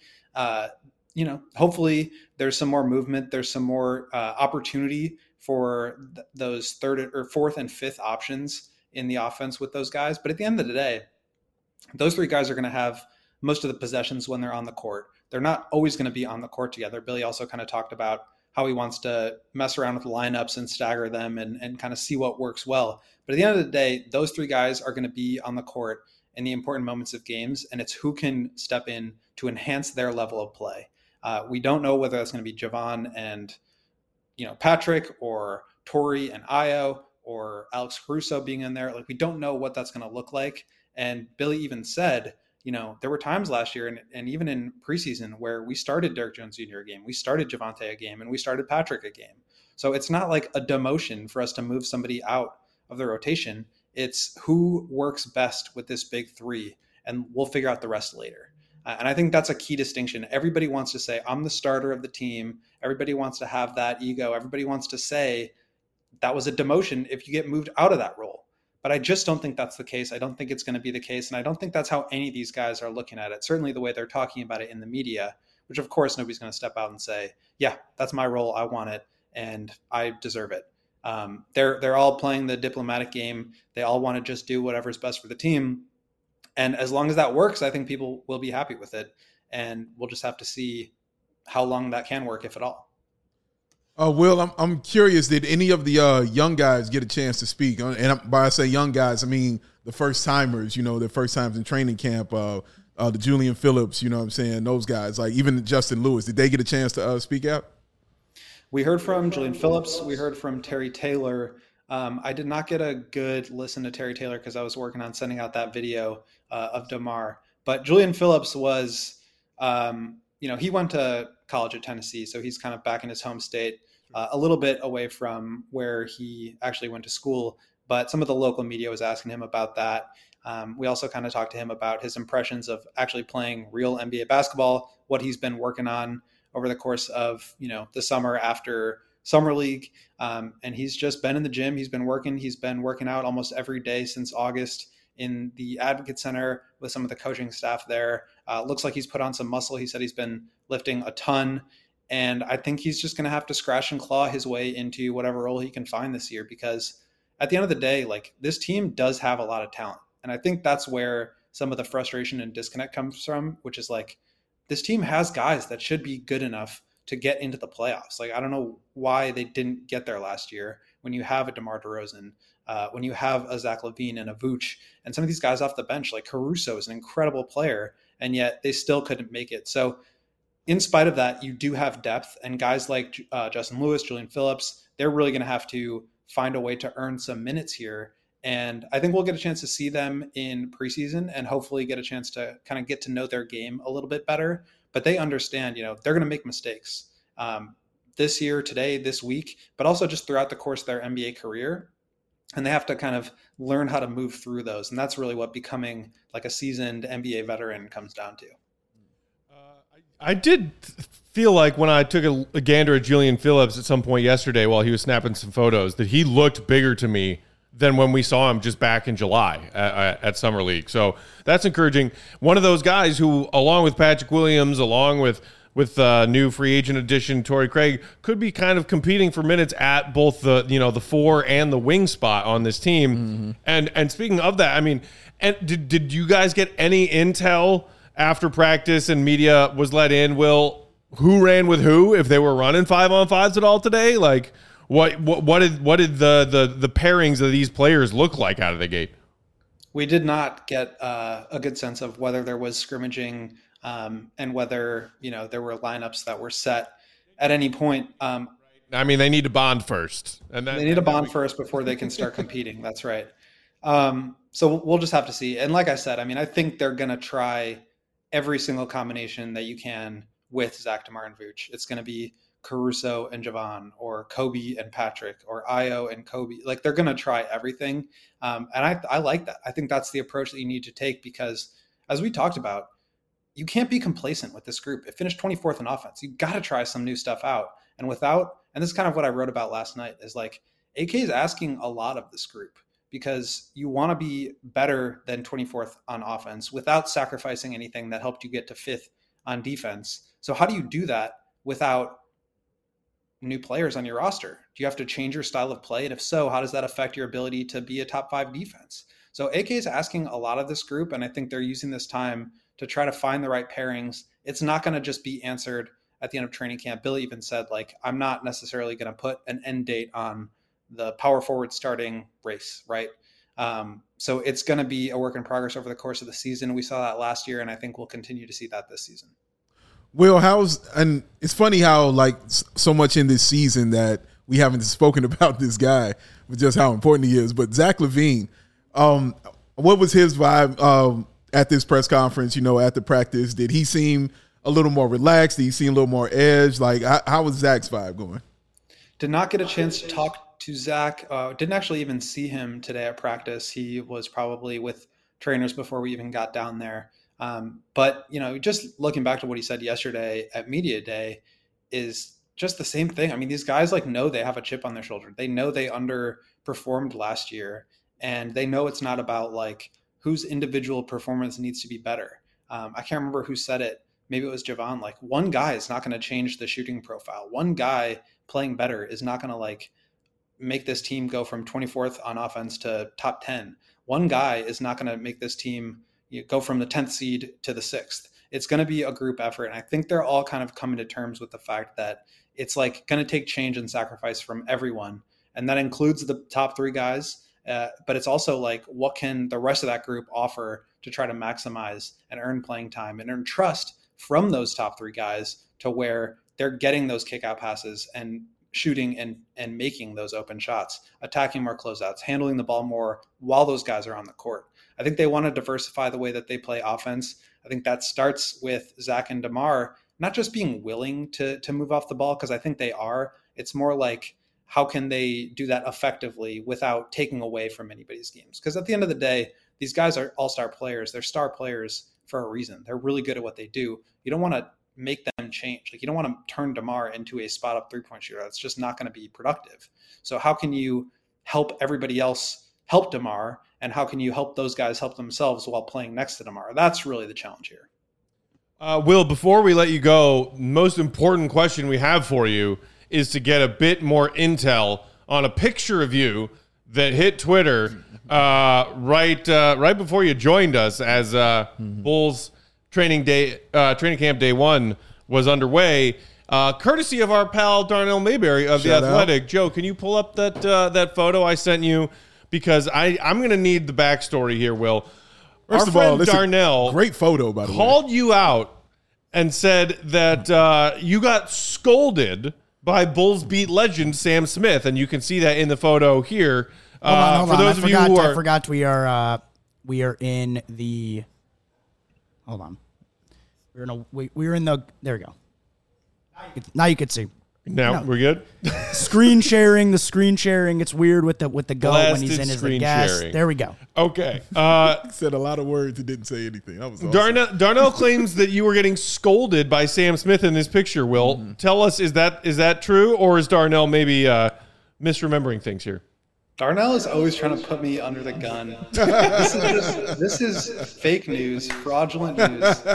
hopefully there's some more movement. There's some more opportunity for those third or fourth and fifth options in the offense with those guys. But at the end of the day, those three guys are going to have most of the possessions when they're on the court. They're not always going to be on the court together. Billy also kind of talked about how he wants to mess around with lineups and stagger them and kind of see what works well. But at the end of the day, those three guys are going to be on the court in the important moments of games, and it's who can step in to enhance their level of play. We don't know whether that's going to be Javon and Patrick or Torrey and Ayo or Alex Caruso being in there. Like we don't know what that's going to look like. And Billy even said, there were times last year and even in preseason where we started Derek Jones Jr. a game, we started Javonte a game, and we started Patrick a game. So it's not like a demotion for us to move somebody out of the rotation. It's who works best with this big three, and we'll figure out the rest later. And I think that's a key distinction. Everybody wants to say, I'm the starter of the team. Everybody wants to have that ego. Everybody wants to say that was a demotion if you get moved out of that role. But I just don't think that's the case. I don't think it's going to be the case. And I don't think that's how any of these guys are looking at it. Certainly the way they're talking about it in the media, which of course nobody's going to step out and say, yeah, that's my role. I want it and I deserve it. They're all playing the diplomatic game. They all want to just do whatever's best for the team. And as long as that works, I think people will be happy with it. And we'll just have to see how long that can work, if at all. Will, I'm curious, did any of the young guys get a chance to speak? And by I say young guys, I mean the first timers, the first times in training camp, the Julian Phillips, what I'm saying, those guys, like even Justin Lewis, did they get a chance to speak out? We heard from Julian Phillips. We heard from Terry Taylor. I did not get a good listen to Terry Taylor because I was working on sending out that video of DeMar. But Julian Phillips was, he went to college at Tennessee, so he's kind of back in his home state, a little bit away from where he actually went to school. But some of the local media was asking him about that. We also kind of talked to him about his impressions of actually playing real NBA basketball, what he's been working on over the course of, the summer after summer league. And he's just been in the gym. He's been working out almost every day since August in the Advocate Center with some of the coaching staff there. Looks like he's put on some muscle. He said he's been lifting a ton. And I think he's just going to have to scratch and claw his way into whatever role he can find this year, because at the end of the day, like, this team does have a lot of talent. And I think that's where some of the frustration and disconnect comes from, which is like, this team has guys that should be good enough to get into the playoffs. Like, I don't know why they didn't get there last year when you have a DeMar DeRozan, when you have a Zach LaVine and a Vooch, and some of these guys off the bench, like Caruso is an incredible player, and yet they still couldn't make it. So in spite of that, you do have depth, and guys like Justin Lewis, Julian Phillips, they're really going to have to find a way to earn some minutes here. And I think we'll get a chance to see them in preseason and hopefully get a chance to kind of get to know their game a little bit better. But they understand, they're going to make mistakes this year, today, this week, but also just throughout the course of their NBA career. And they have to kind of learn how to move through those. And that's really what becoming like a seasoned NBA veteran comes down to. I did feel like when I took a gander at Julian Phillips at some point yesterday while he was snapping some photos that he looked bigger to me than when we saw him just back in July at Summer League. So that's encouraging. One of those guys who, along with Patrick Williams, along with new free agent addition Torrey Craig, could be kind of competing for minutes at both the 4 and the wing spot on this team. Mm-hmm. And speaking of that, I mean, and did you guys get any intel after practice and media was let in, Will, who ran with who, if they were running 5-on-5s at all today? Like, what did the pairings of these players look like out of the gate? We did not get a good sense of whether there was scrimmaging and whether there were lineups that were set at any point. I mean, they need to bond first, and they need to bond first before they can start competing. That's right. So we'll just have to see. And like I said, I mean, I think they're going to try every single combination that you can with Zach, DeMar, and Vooch. It's going to be Caruso and Javon, or Kobe and Patrick, or Ayo and Kobe. Like, they're going to try everything. And I like that. I think that's the approach that you need to take, because as we talked about, you can't be complacent with this group. It finished 24th in offense. You got to try some new stuff out. And this is kind of what I wrote about last night, is like, AK is asking a lot of this group, because you want to be better than 24th on offense without sacrificing anything that helped you get to 5th on defense. So how do you do that without new players on your roster? Do you have to change your style of play? And if so, how does that affect your ability to be a top 5 defense? So AK is asking a lot of this group, and I think they're using this time to try to find the right pairings. It's not going to just be answered at the end of training camp. Billy even said, like, I'm not necessarily going to put an end date on the power forward starting race, right? So it's going to be a work in progress over the course of the season. We saw that last year, and I think we'll continue to see that this season. Will, and it's funny how, like, so much in this season that we haven't spoken about this guy, with just how important he is. But Zach LaVine, what was his vibe at this press conference, at the practice? Did he seem a little more relaxed? Did he seem a little more edged? Like, how was Zach's vibe going? Did not get a chance to talk to Zach. Didn't actually even see him today at practice. He was probably with trainers before we even got down there. But, just looking back to what he said yesterday at Media Day is just the same thing. I mean, these guys know they have a chip on their shoulder. They know they underperformed last year, and they know it's not about like whose individual performance needs to be better. I can't remember who said it. Maybe it was Javon. Like, one guy is not going to change the shooting profile. One guy playing better is not going to make this team go from 24th on offense to top 10. One guy is not going to make this team go from the 10th seed to the 6th. It's going to be a group effort. And I think they're all kind of coming to terms with the fact that it's going to take change and sacrifice from everyone. And that includes the top 3 guys. But it's also what can the rest of that group offer to try to maximize and earn playing time and earn trust from those top 3 guys to where they're getting those kick out passes and shooting and making those open shots, attacking more closeouts, handling the ball more while those guys are on the court. I think they want to diversify the way that they play offense. I think that starts with Zach and DeMar not just being willing to move off the ball, because I think they are. It's more like, how can they do that effectively without taking away from anybody's games? Because at the end of the day, these guys are all-star players. They're star players for a reason. They're really good at what they do. You don't want to make them change. You don't want to turn DeMar into a spot-up three-point shooter. That's just not going to be productive. So how can you help everybody else help DeMar, and how can you help those guys help themselves while playing next to DeMar? That's really the challenge here. Will, before we let you go, most important question we have for you is to get a bit more intel on a picture of you that hit Twitter right before you joined us as Bulls training camp day one was underway. Courtesy of our pal Darnell Mayberry of The Athletic. Joe, can you pull up that photo I sent you? Because I'm going to need the backstory here, Will. First of all, Darnell, great photo, by the way, called you out and said that you got scolded by Bulls beat legend Sam Smith, and you can see that in the photo here. Hold on. I forgot we are in the. Hold on. We're in the. There we go. Now you can see. Now we're good. The screen sharing. It's weird with the goat when he's in as a guest. Sharing. There we go. Okay. Said a lot of words and didn't say anything. That was awesome. Darnell claims that you were getting scolded by Sam Smith in this picture. Will, tell us, is that true, or is Darnell maybe misremembering things here? Darnell is always trying to put me under the gun. This is fake news, fraudulent news.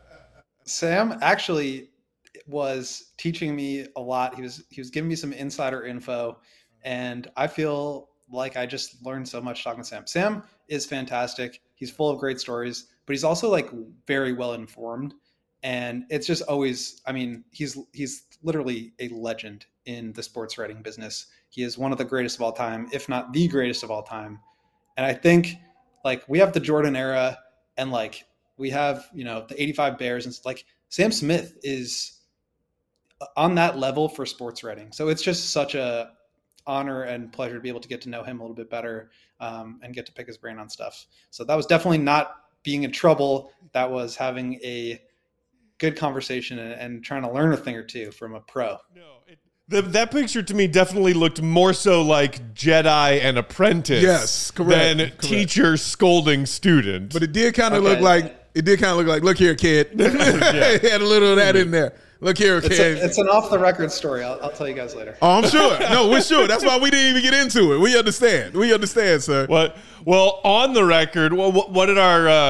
Sam actually was teaching me a lot. He was giving me some insider info, and I feel like I just learned so much talking to Sam. Sam is fantastic. He's full of great stories, but he's also like very well informed. And it's just always, I mean, he's literally a legend in the sports writing business. He is one of the greatest of all time, if not the greatest of all time. And I think like we have the Jordan era and like we have, the 85 Bears, and like Sam Smith is on that level for sports writing. So it's just such a honor and pleasure to be able to get to know him a little bit better and get to pick his brain on stuff. So that was definitely not being in trouble. That was having a good conversation and trying to learn a thing or two from a pro. No, that picture to me definitely looked more so like Jedi and apprentice. Yes, correct. Than teacher scolding student. But it did kind of look like, look here, kid. It had a little of that in there. Look here, kid. It's an off-the-record story. I'll tell you guys later. Oh, I'm sure. No, we're sure. That's why we didn't even get into it. We understand, sir. What? Well, on the record, what did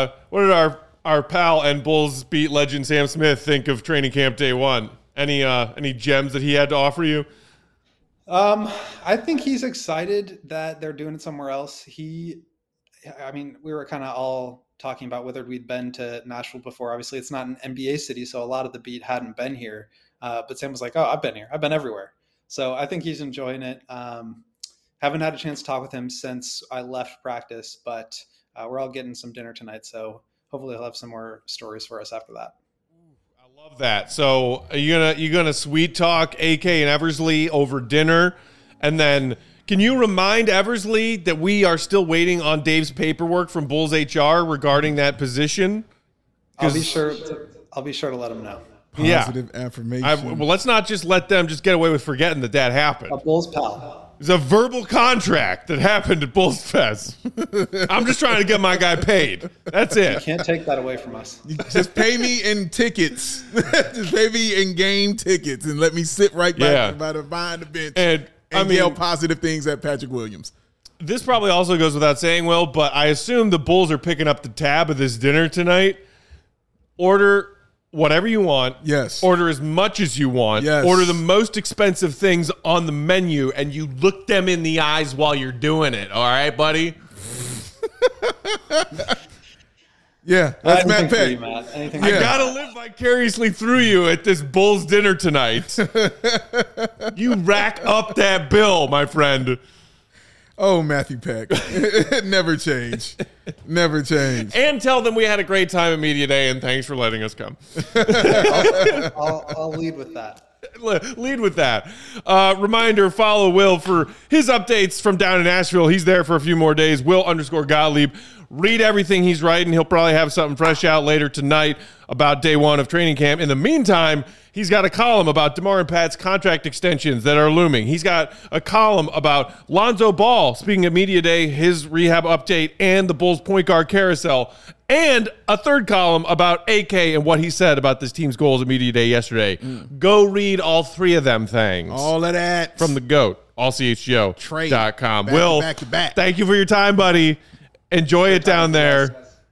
our pal and Bulls beat legend Sam Smith think of training camp day one? Any gems that he had to offer you? I think he's excited that they're doing it somewhere else. We were kind of all talking about whether we'd been to Nashville before. Obviously, it's not an NBA city, so a lot of the beat hadn't been here. But Sam was like, "Oh, I've been here. I've been everywhere." So I think he's enjoying it. Haven't had a chance to talk with him since I left practice, but we're all getting some dinner tonight, so hopefully he'll have some more stories for us after that. I love that. So are you gonna sweet talk AK and Eversley over dinner, and then can you remind Eversley that we are still waiting on Dave's paperwork from Bulls HR regarding that position? I'll be sure to let him know. Positive affirmation. Well, let's not just let them just get away with forgetting that happened. A Bulls pal. It's a verbal contract that happened at Bulls Fest. I'm just trying to get my guy paid. That's it. You can't take that away from us. Just pay me in tickets. Just pay me in game tickets and let me sit right back behind the bench and yell positive things at Patrick Williams. This probably also goes without saying, Will, but I assume the Bulls are picking up the tab of this dinner tonight. Order whatever you want. Yes. Order as much as you want. Yes. Order the most expensive things on the menu, and you look them in the eyes while you're doing it. All right, buddy? Yeah, that's Matt Peck. I gotta live vicariously through you at this Bulls dinner tonight. You rack up that bill, my friend. Oh, Matthew Peck. Never change. Never change. And tell them we had a great time at Media Day, and thanks for letting us come. I'll lead with that. Lead with that. Reminder, follow Will for his updates from down in Nashville. He's there for a few more days. Will_Gottlieb. Read everything he's writing. He'll probably have something fresh out later tonight about day one of training camp. In the meantime, he's got a column about DeMar and Pat's contract extensions that are looming. He's got a column about Lonzo Ball, speaking of Media Day, his rehab update, and the Bulls point guard carousel. And a third column about AK and what he said about this team's goals at Media Day yesterday. Go read all three of them things. All of that. From the GOAT, allchgo.com. Back Will, to back. thank you for your time, buddy. Enjoy it down there.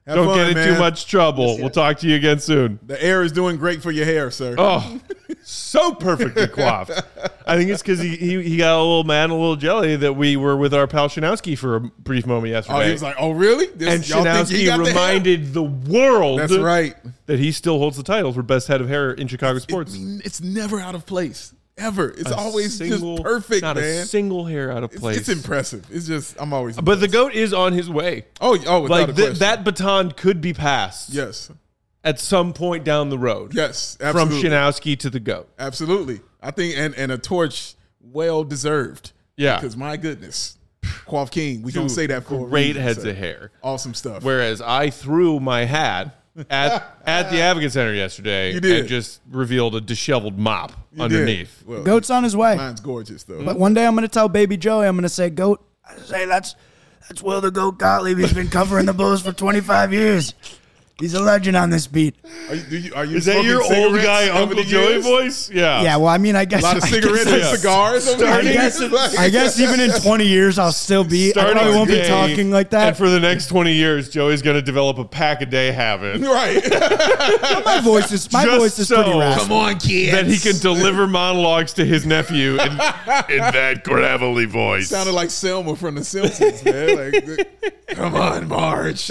Don't get in man. too much trouble. We'll talk to you again soon. The air is doing great for your hair, sir. Oh, so perfectly coiffed. I think it's because he got a little mad and a little jelly that we were with our pal Shanowski for a brief moment yesterday. Oh, he was like, "Oh, really?" And y'all think he Shanowski got the hair? reminded the world That's right. that he still holds the title for best head of hair in Chicago I sports. mean, it's never out of place. Ever. It's always Single- just perfect, not man. a single hair out of place. It's impressive. It's just, I'm always But the impressed. GOAT is on his way. Oh, without Like a question. that baton could be passed Yes. at some point down the road. Yes, From absolutely. Shanowski to the GOAT. Absolutely. I think, and a torch well deserved. Yeah. Because my goodness, Quaff King, we don't Dude, say that for a great reason, heads sir. of hair. Awesome stuff. Whereas I threw my hat at the Advocate Center yesterday You did. and just revealed a disheveled mop You underneath. did. Well, Goat's on his way. mine's gorgeous, though. But one day I'm going to tell Baby Joey, I'm going to say, Goat, I say that's Will the Goat Gottlieb. He's been covering the Bulls for 25 years. He's a legend on this beat. Are you Is that smoking your old cigarettes guy over Uncle the Joey years? voice? Yeah. Yeah, well, I mean, I guess. A lot of I cigarettes guess- and yeah. cigars over Starting- the I guess even in 20 years, I'll still be. I probably won't be today, talking like that. And for the next 20 years, Joey's going to develop a pack a day habit Right. my voice is Just pretty so- raspy. on, kids. that he can deliver monologues to his nephew in that gravelly voice. Sounded like Selma from The Simpsons, man. Like, come on, Marge.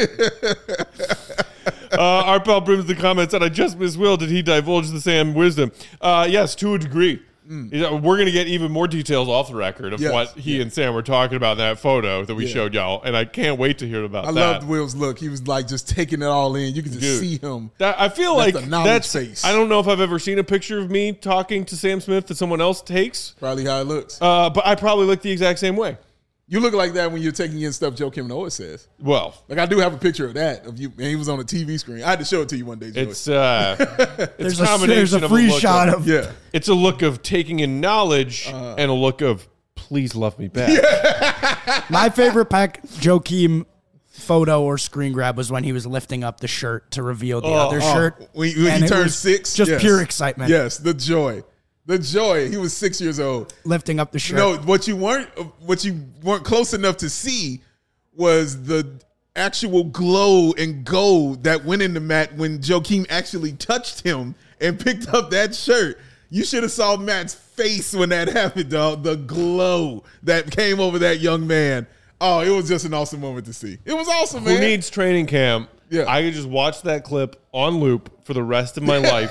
Our pal Brims the comments said, I just miss Will. Did he divulge the Sam wisdom? Yes, to a degree. We're going to get even more details off the record of Yes. what he and Sam were talking about in that photo that we showed y'all, and I can't wait to hear about I that. loved Will's look. He was like just taking it all in. You could just Dude. see him. I feel That's like a knowledge face. I don't know if I've ever seen a picture of me talking to Sam Smith that someone else takes, Probably how it looks. but I probably look the exact same way. You look like that when you're taking in stuff Joe Kim Noah says. Well, Like I do have a picture of that of you, and he was on a TV screen. I had to show it to you one day, Joey. it's There's a combination of free look shot of- of. yeah. It's a look of taking in knowledge and a look of please love me back. My favorite Joakim photo or screen grab was when he was lifting up the shirt to reveal the other shirt. When And he it turned was 6, just yes. pure excitement. Yes, the joy. The joy. He was 6 years old. Lifting up the shirt. No, what you weren't close enough to see was the actual glow and gold that went into Matt when Joakim actually touched him and picked up that shirt. You should have saw Matt's face when that happened, dog. The glow that came over that young man. Oh, it was just an awesome moment to see. It was awesome, man. Who needs training camp? Yeah. I could just watch that clip on loop for the rest of my life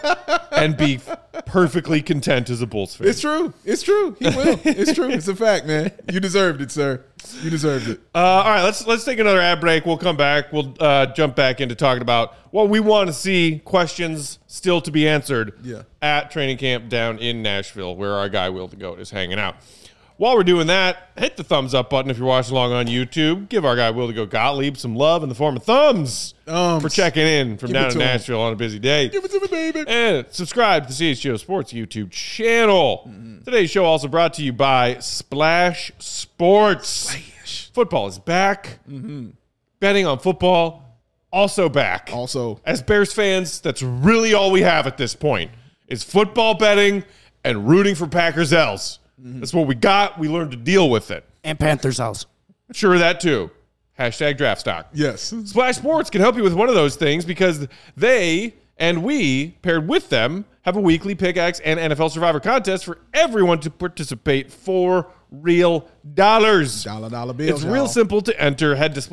and be perfectly content as a Bulls fan. It's true. It's true. He will. It's true. It's a fact, man. You deserved it, sir. You deserved it. All right, let's take another ad break. We'll come back. We'll jump back into talking about what we want to see, questions still to be answered at training camp down in Nashville, where our guy Will the Goat is hanging out. While we're doing that, hit the thumbs up button if you're watching along on YouTube. Give our guy Will the Goat Gottlieb some love in the form of thumbs for checking in from Give down it in to him. Nashville on a busy day. Give it to me, baby. And subscribe to the CHGO Sports YouTube channel. Today's show also brought to you by Splash Sports. Football is back. Betting on football also back. Also, As Bears fans, that's really all we have at this point is football betting and rooting for Packers L's. That's what we got. We learned to deal with it. And Panthers house. Sure, that too. Hashtag draft stock. yes. Splash Sports can help you with one of those things because they and we, paired with them, have a weekly pickaxe and NFL Survivor contest for everyone to participate for real dollars. Dollar bills. It's real simple to enter. Head to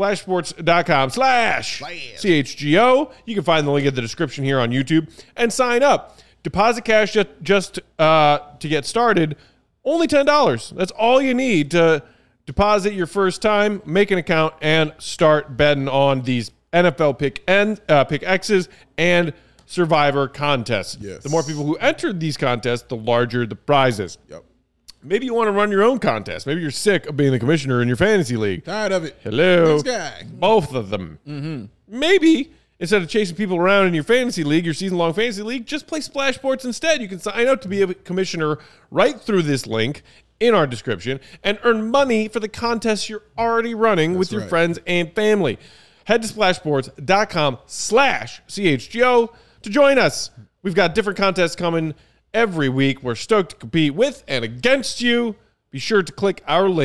splashsports.com/CHGO. You can find the link in the description here on YouTube and sign up. Deposit cash just to get started. Only $10. That's all you need to deposit your first time, make an account, and start betting on these NFL pick X's and Survivor contests. Yes. The more people who enter these contests, the larger the prizes. Yep. Maybe you want to run your own contest. Maybe you're sick of being the commissioner in your fantasy league. Tired of it. Hello. Next guy. Both of them. Maybe instead of chasing people around in your fantasy league, your season-long fantasy league, just play Splash Sports instead. You can sign up to be a commissioner right through this link in our description and earn money for the contests you're already running with your right. friends and family. Head to splashsports.com/CHGO to join us. We've got different contests coming every week. We're stoked to compete with and against you. Be sure to click our link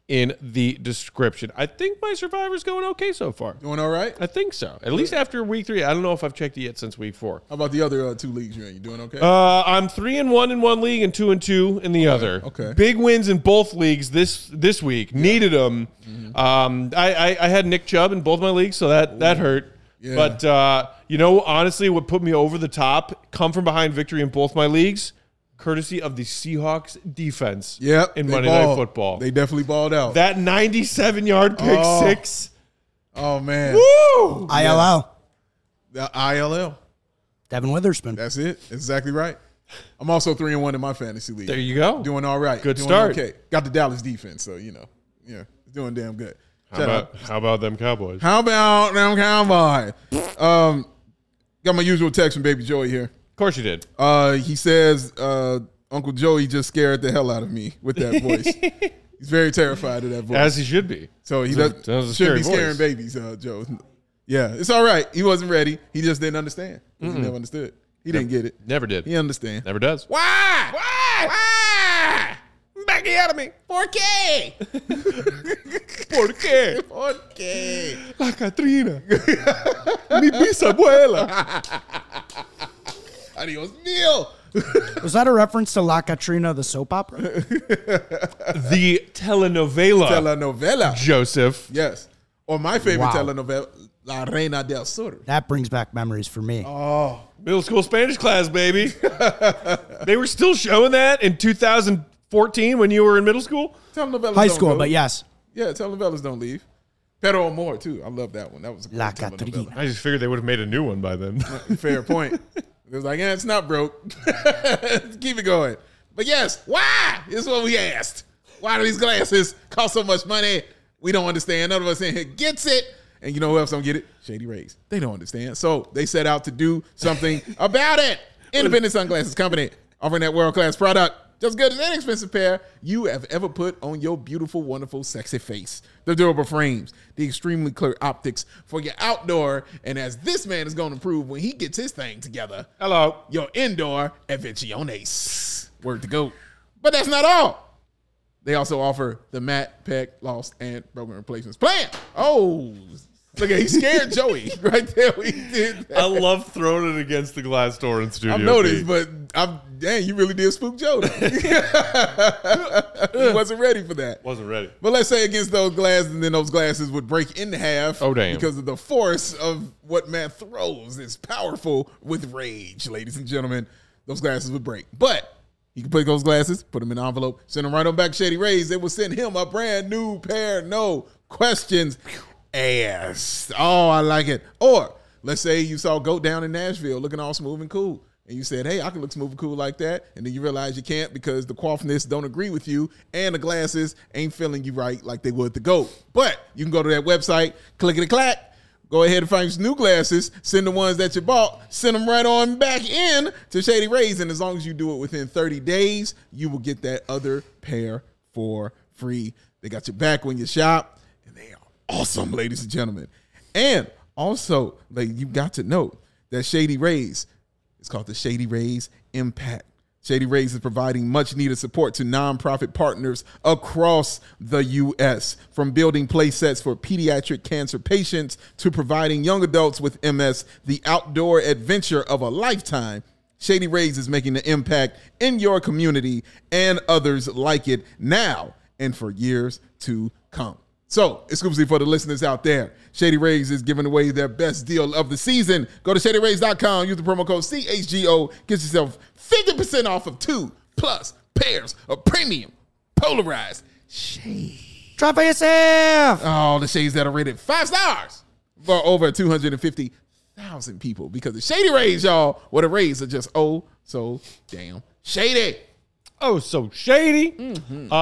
in the description. I think my Survivor's going okay so far. Doing all right? I think so. At least after week 3. I don't know if I've checked it yet since week 4. How about the other 2 leagues you're in? You doing okay? I'm 3-1 in one league and 2-2 in the other. Okay. Big wins in both leagues this week. Needed them. I had Nick Chubb in both my leagues, so that hurt. Yeah. But honestly, what put me over the top, come from behind victory in both my leagues, courtesy of the Seahawks defense. Yep, in they Monday balled. Night Football. They definitely balled out. That 97-yard pick six. Oh man. Woo! ILL. The ILL. Devin Witherspoon. That's it. Exactly right. I'm also 3-1 in my fantasy league. There you go. Doing all right. Good Doing start. Okay. Got the Dallas defense, so it's doing damn good. How about them Cowboys? How about them Cowboys? Got my usual text from Baby Joey here. Of course you did. He says Uncle Joey just scared the hell out of me with that voice. He's very terrified of that voice. As he should be. So he That was a shouldn't be scary scaring voice. babies, Joe. Yeah, it's all right. He wasn't ready. He just didn't understand. He never understood. He didn't get it. Never did. He understand. Never does. Why? Backing out of me. 4K. 4K. 4K. La Catrina. Mi bisabuela. Adios mío. Was that a reference to La Catrina, the soap opera? The telenovela. Telenovela. Joseph. Yes. Or my favorite Wow. telenovela, La Reina del Sur. That brings back memories for me. Middle school Spanish class, baby. They were still showing that in 2014 when you were in middle school? Telenovelas High don't school, go. but yes. Yeah, telenovelas don't leave. Pero Amor, too. I love that one. That was a great La telenovela. Catrina. I just figured they would have made a new one by then. Fair point. It was like, it's not broke. Keep it going. But yes, why? Is what we asked. Why do these glasses cost so much money? We don't understand. None of us in here gets it. And you know who else don't get it? Shady Rays. They don't understand. So they set out to do something about it. Independent Sunglasses Company, offering that world-class product. Just good as any expensive pair you have ever put on your beautiful, wonderful, sexy face. The durable frames, the extremely clear optics for your outdoor, and as this man is going to prove when he gets his thing together, Hello. your indoor adventiones. Word to go. But that's not all. They also offer the matte, pec, lost, and broken replacements plan. Oh, look at, he scared Joey right there when he did that. I love throwing it against the glass door in Studio I've noticed, B. but dang, you really did spook Joe. He wasn't ready for that. Wasn't ready. But let's say against those glasses, and then those glasses would break in half. Oh, damn. Because of the force of what Matt throws. It's powerful with rage, ladies and gentlemen. Those glasses would break. But he could put those glasses, put them in an envelope, send them right on back to Shady Rays. They will send him a brand new pair. No questions asked. Oh, I like it. Or let's say you saw Goat down in Nashville looking all smooth and cool. And you said, hey, I can look smooth and cool like that. And then you realize you can't because the coiffness don't agree with you and the glasses ain't feeling you right like they would the Goat. But you can go to that website, clickety-clack, go ahead and find some new glasses, send the ones that you bought, send them right on back in to Shady Rays. And as long as you do it within 30 days, you will get that other pair for free. They got your back when you shop, and they are awesome, ladies and gentlemen. And also, like, you got to know that Shady Rays, it's called the Shady Rays Impact. Shady Rays is providing much needed support to nonprofit partners across the U.S., from building play sets for pediatric cancer patients to providing young adults with MS the outdoor adventure of a lifetime. Shady Rays is making an impact in your community and others like it now and for years to come. So, exclusively for the listeners out there, Shady Rays is giving away their best deal of the season. Go to ShadyRays.com, use the promo code CHGO, get yourself 50% off of 2+ pairs of premium polarized shades. Try for yourself. Oh, the shades that are rated 5 stars for over 250,000 people. Because the Shady Rays, y'all, well, the Rays are just oh so damn shady. Oh, so shady.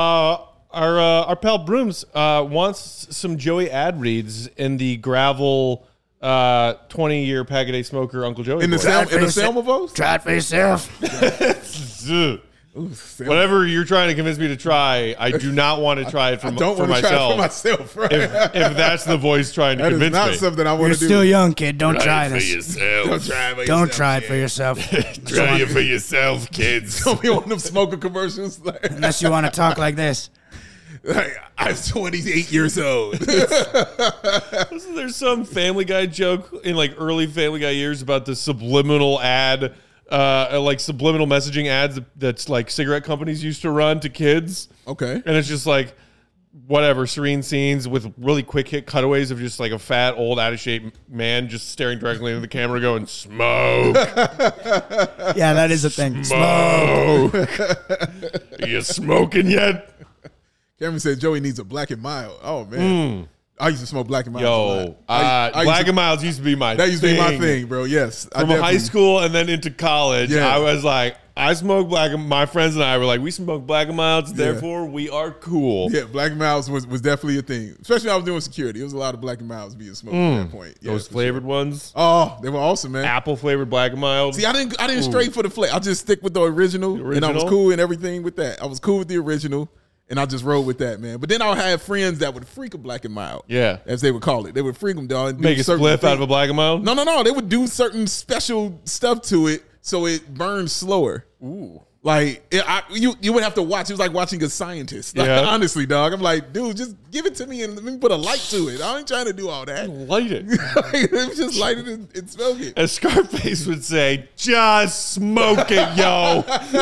Our pal Brooms wants some Joey ad reads in the gravel 20-year Pack-A-Day Smoker Uncle Joey. In the voice. Selma voice? Try it for yourself. Ugh. Whatever you're trying to convince me to try, I do not want to try it for, Don't for want to try it myself. for myself, right? If that's the voice trying to That is convince not me. something I want You're to do. still young, kid. Don't try this. Don't try it for Don't yourself, try it kid. for yourself. Try it for yourself, kids. Don't be one of them smoker commercials. Unless you want to talk like this. Like, I'm 28 years old. Wasn't there some Family Guy joke in like early Family Guy years about the subliminal ad, like subliminal messaging ads that's like cigarette companies used to run to kids? Okay. And it's just like whatever, serene scenes with really quick hit cutaways of just like a fat, old, out of shape man just staring directly into the camera going, smoke. Yeah, that is a thing. Smoke. Are you smoking yet? Cameron said Joey needs a Black and Mild. Oh, man. I used to smoke Black and Mild. Yo, Black and Milds used to be my thing. That used to be my thing, bro. Yes. From high school and then into college, Yeah. I was like, I smoke Black and my friends and I were like, we smoke Black and Milds, therefore we are cool. Yeah, Black and Milds was definitely a thing. Especially when I was doing security. It was a lot of Black and Milds being smoked at that point. Yeah, Those for flavored ones. Oh, they were awesome, man. Apple flavored Black and Mild. See, I didn't stray for the flavor. I just stick with the original, and I was cool and everything with that. I was cool with the original, and I just rolled with that, man. But then I would have friends that would freak a Black and Mild. Yeah. As they would call it. They would freak them, dog. And Make a spliff out of a Black and Mild? No. They would do certain special stuff to it so it burns slower. Ooh. Like, you would have to watch. It was like watching a scientist. Like, Yeah. honestly, dog. I'm like, dude, just give it to me and let me put a light to it. I ain't trying to do all that. Light it. Just light it and smoke it. As Scarface would say, just smoke it, yo.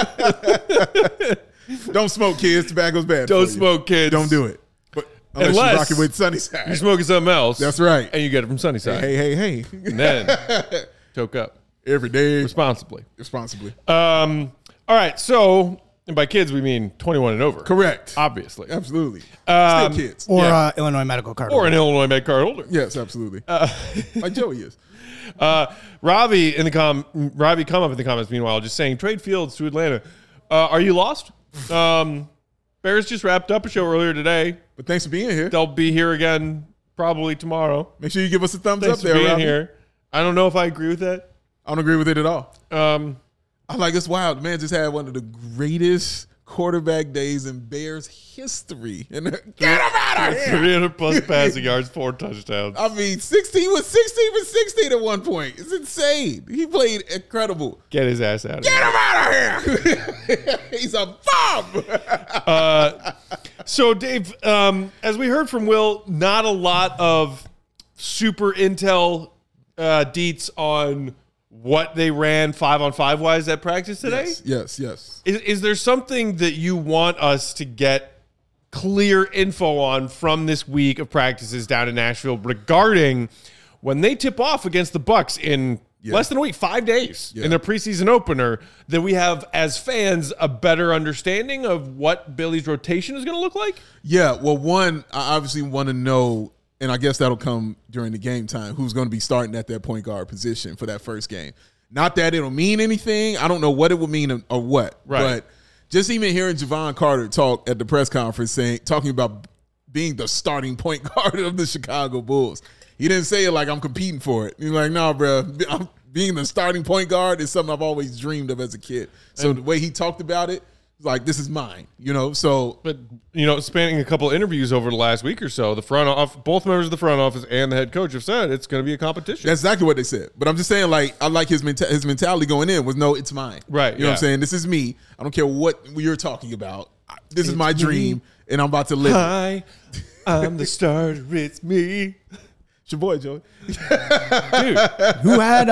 Don't smoke, kids. Tobacco's bad. Don't for you. smoke, kids. Don't do it. But unless Unless you're rocking with Sunnyside. You're smoking something else. That's right. And you get it from Sunnyside. Hey. And then toke up Every day. responsibly. All right, so, and by kids we mean 21 and over. Correct. Obviously. Absolutely. Still kids. Or Yeah. Illinois medical card. Or an Illinois Med card holder. Yes, absolutely. Like Joey is. Robbie come up in the comments meanwhile, just saying trade Fields to Atlanta. Are you lost? Bears just wrapped up a show earlier today. But thanks for being here. They'll be here again probably tomorrow. Make sure you give us a thumbs Thanks up for there, being Robbie. here. I don't know if I agree with that. I don't agree with it at all. Um, It's wild. The man just had one of the greatest quarterback days in Bears history. And get him out of here. 300 plus passing yards, 4 touchdowns. I mean, 16 for 16 at one point. It's insane. He played incredible. Get his ass out of Get here. him out of here. He's a bum. So, Dave, as we heard from Will, not a lot of super intel deets on what they ran 5-on-5 wise at practice today. Yes. Is there something that you want us to get clear info on from this week of practices down in Nashville regarding when they tip off against the Bucs in less than a week, 5 days in their preseason opener, that we have as fans a better understanding of what Billy's rotation is going to look like? Yeah, well, one, I obviously want to know, and I guess that'll come during the game time, who's going to be starting at that point guard position for that first game. Not that it'll mean anything. I don't know what it will mean or what. Right. But just even hearing Javon Carter talk at the press conference talking about being the starting point guard of the Chicago Bulls. He didn't say it like I'm competing for it. He's like, no, bro, being the starting point guard is something I've always dreamed of as a kid. So the way he talked about it, like, this is mine, so. But, spanning a couple of interviews over the last week or so, both members of the front office and the head coach have said it's going to be a competition. That's exactly what they said. But I'm just saying, like, I like his mentality going in was, no, it's mine. Right, You know what I'm saying? This is me. I don't care what you're talking about. This is my dream, and I'm about to live it. Hi, I'm the starter. It's me. It's your boy, Joey. Dude, Who had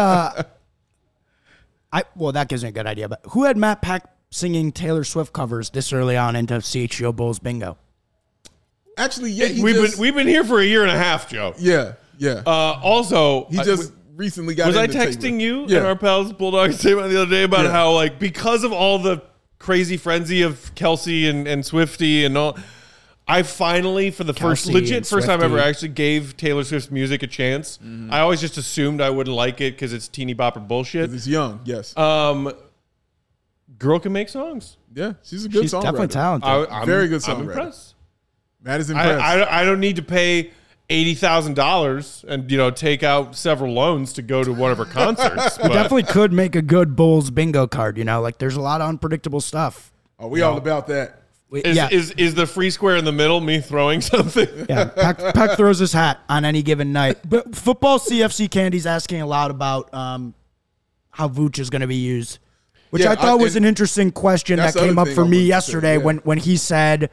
that gives me a good idea, but who had Matt Pack singing Taylor Swift covers this early on into CHGO Bulls bingo? Actually, yeah, we've been here for a year and a half, Joe. Yeah. Also, He just recently got was I into texting Taylor. you Yeah. and our pals Bulldogs statement the other day about how, like, because of all the crazy frenzy of Kelsey and Swifty and all, I finally, for the first time ever, actually gave Taylor Swift's music a chance. I always just assumed I wouldn't like it because it's teeny bopper bullshit. It's young, yes. Girl can make songs. Yeah, she's a good She's songwriter. definitely talented. I'm Very good I'm songwriter. impressed. Matt is impressed. I don't need to pay $80,000 and take out several loans to go to one of her concerts. You definitely could make a good Bulls bingo card. Like there's a lot of unpredictable stuff. Are we all about that? Is the free square in the middle me throwing something? Yeah, Peck throws his hat on any given night. But football CFC Candy's asking a lot about how Vooch is going to be used, which I thought was an interesting question that came up for me yesterday when he said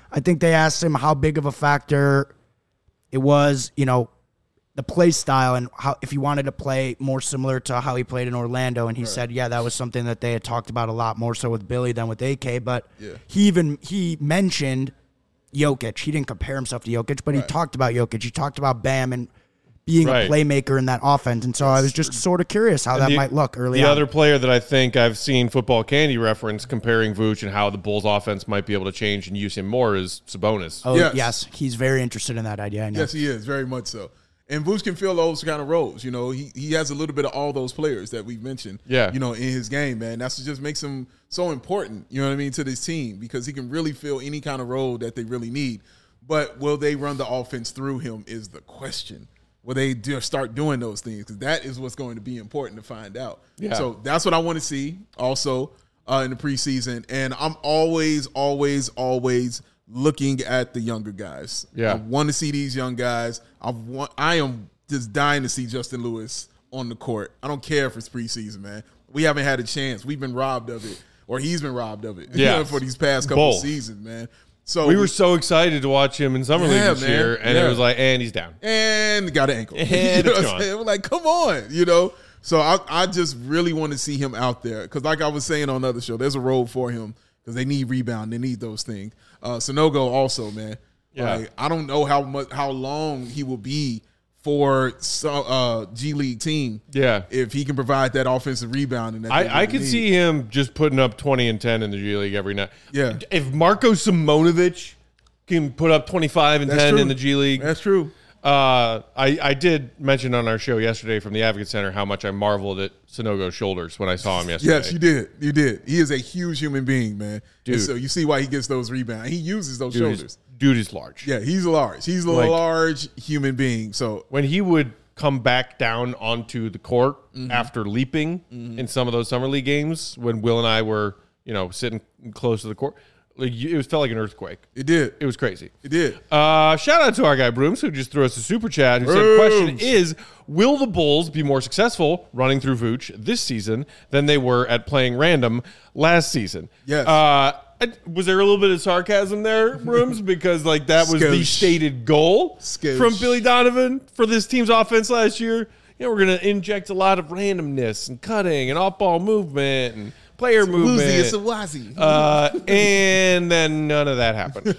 I think they asked him how big of a factor it was, the play style and how if he wanted to play more similar to how he played in Orlando. And he said, yeah, that was something that they had talked about a lot more so with Billy than with AK. But he mentioned Jokic. He didn't compare himself to Jokic, but he talked about Jokic. He talked about Bam and being a playmaker in that offense. And so I was just sort of curious how that might look early on. The other player that I think I've seen Football Candy reference comparing Vooch and how the Bulls offense might be able to change and use him more is Sabonis. Oh, yes. He's very interested in that idea. I know. Yes, he is. Very much so. And Vooch can fill those kind of roles. He has a little bit of all those players that we've mentioned, in his game, man. That's what just makes him so important, to this team because he can really fill any kind of role that they really need. But will they run the offense through him is the question. Will they start doing those things? Because that is what's going to be important to find out. Yeah. So that's what I want to see also in the preseason. And I'm always, always, always looking at the younger guys. Yeah. I want to see these young guys. I am just dying to see Justin Lewis on the court. I don't care if it's preseason, man. We haven't had a chance. We've been robbed of it, or he's been robbed of it for these past couple of seasons, man. So we were so excited to watch him in Summer League this year, and it was like, and he's down. And got an ankle. And it's gone. We're like, come on, So I just really want to see him out there because like I was saying on the other show, there's a role for him because they need rebound. They need those things. Sanogo also, man. Yeah. Like, I don't know how long he will be for G League team. Yeah. If he can provide that offensive rebounding. I could see him just putting up 20 and 10 in the G League every night. Yeah. If Marko Simonovic can put up 25 and 10 in the G League. That's true. I did mention on our show yesterday from the Advocate Center how much I marveled at Sanogo's shoulders when I saw him yesterday. Yes, you did. You did. He is a huge human being, man. Dude. And so you see why he gets those rebounds. He uses those shoulders. Dude is large. Yeah, he's large. He's a large human being. So when he would come back down onto the court after leaping in some of those Summer League games when Will and I were, sitting close to the court, it felt like an earthquake. It did. It was crazy. It did. Shout out to our guy Brooms who just threw us a super chat. Who said, the question is, will the Bulls be more successful running through Vooch this season than they were at playing random last season? Yes. Was there a little bit of sarcasm there, Brooms? Because that was the stated goal from Billy Donovan for this team's offense last year. We're going to inject a lot of randomness and cutting and off-ball movement and player movement. It's a wazi. And then none of that happened.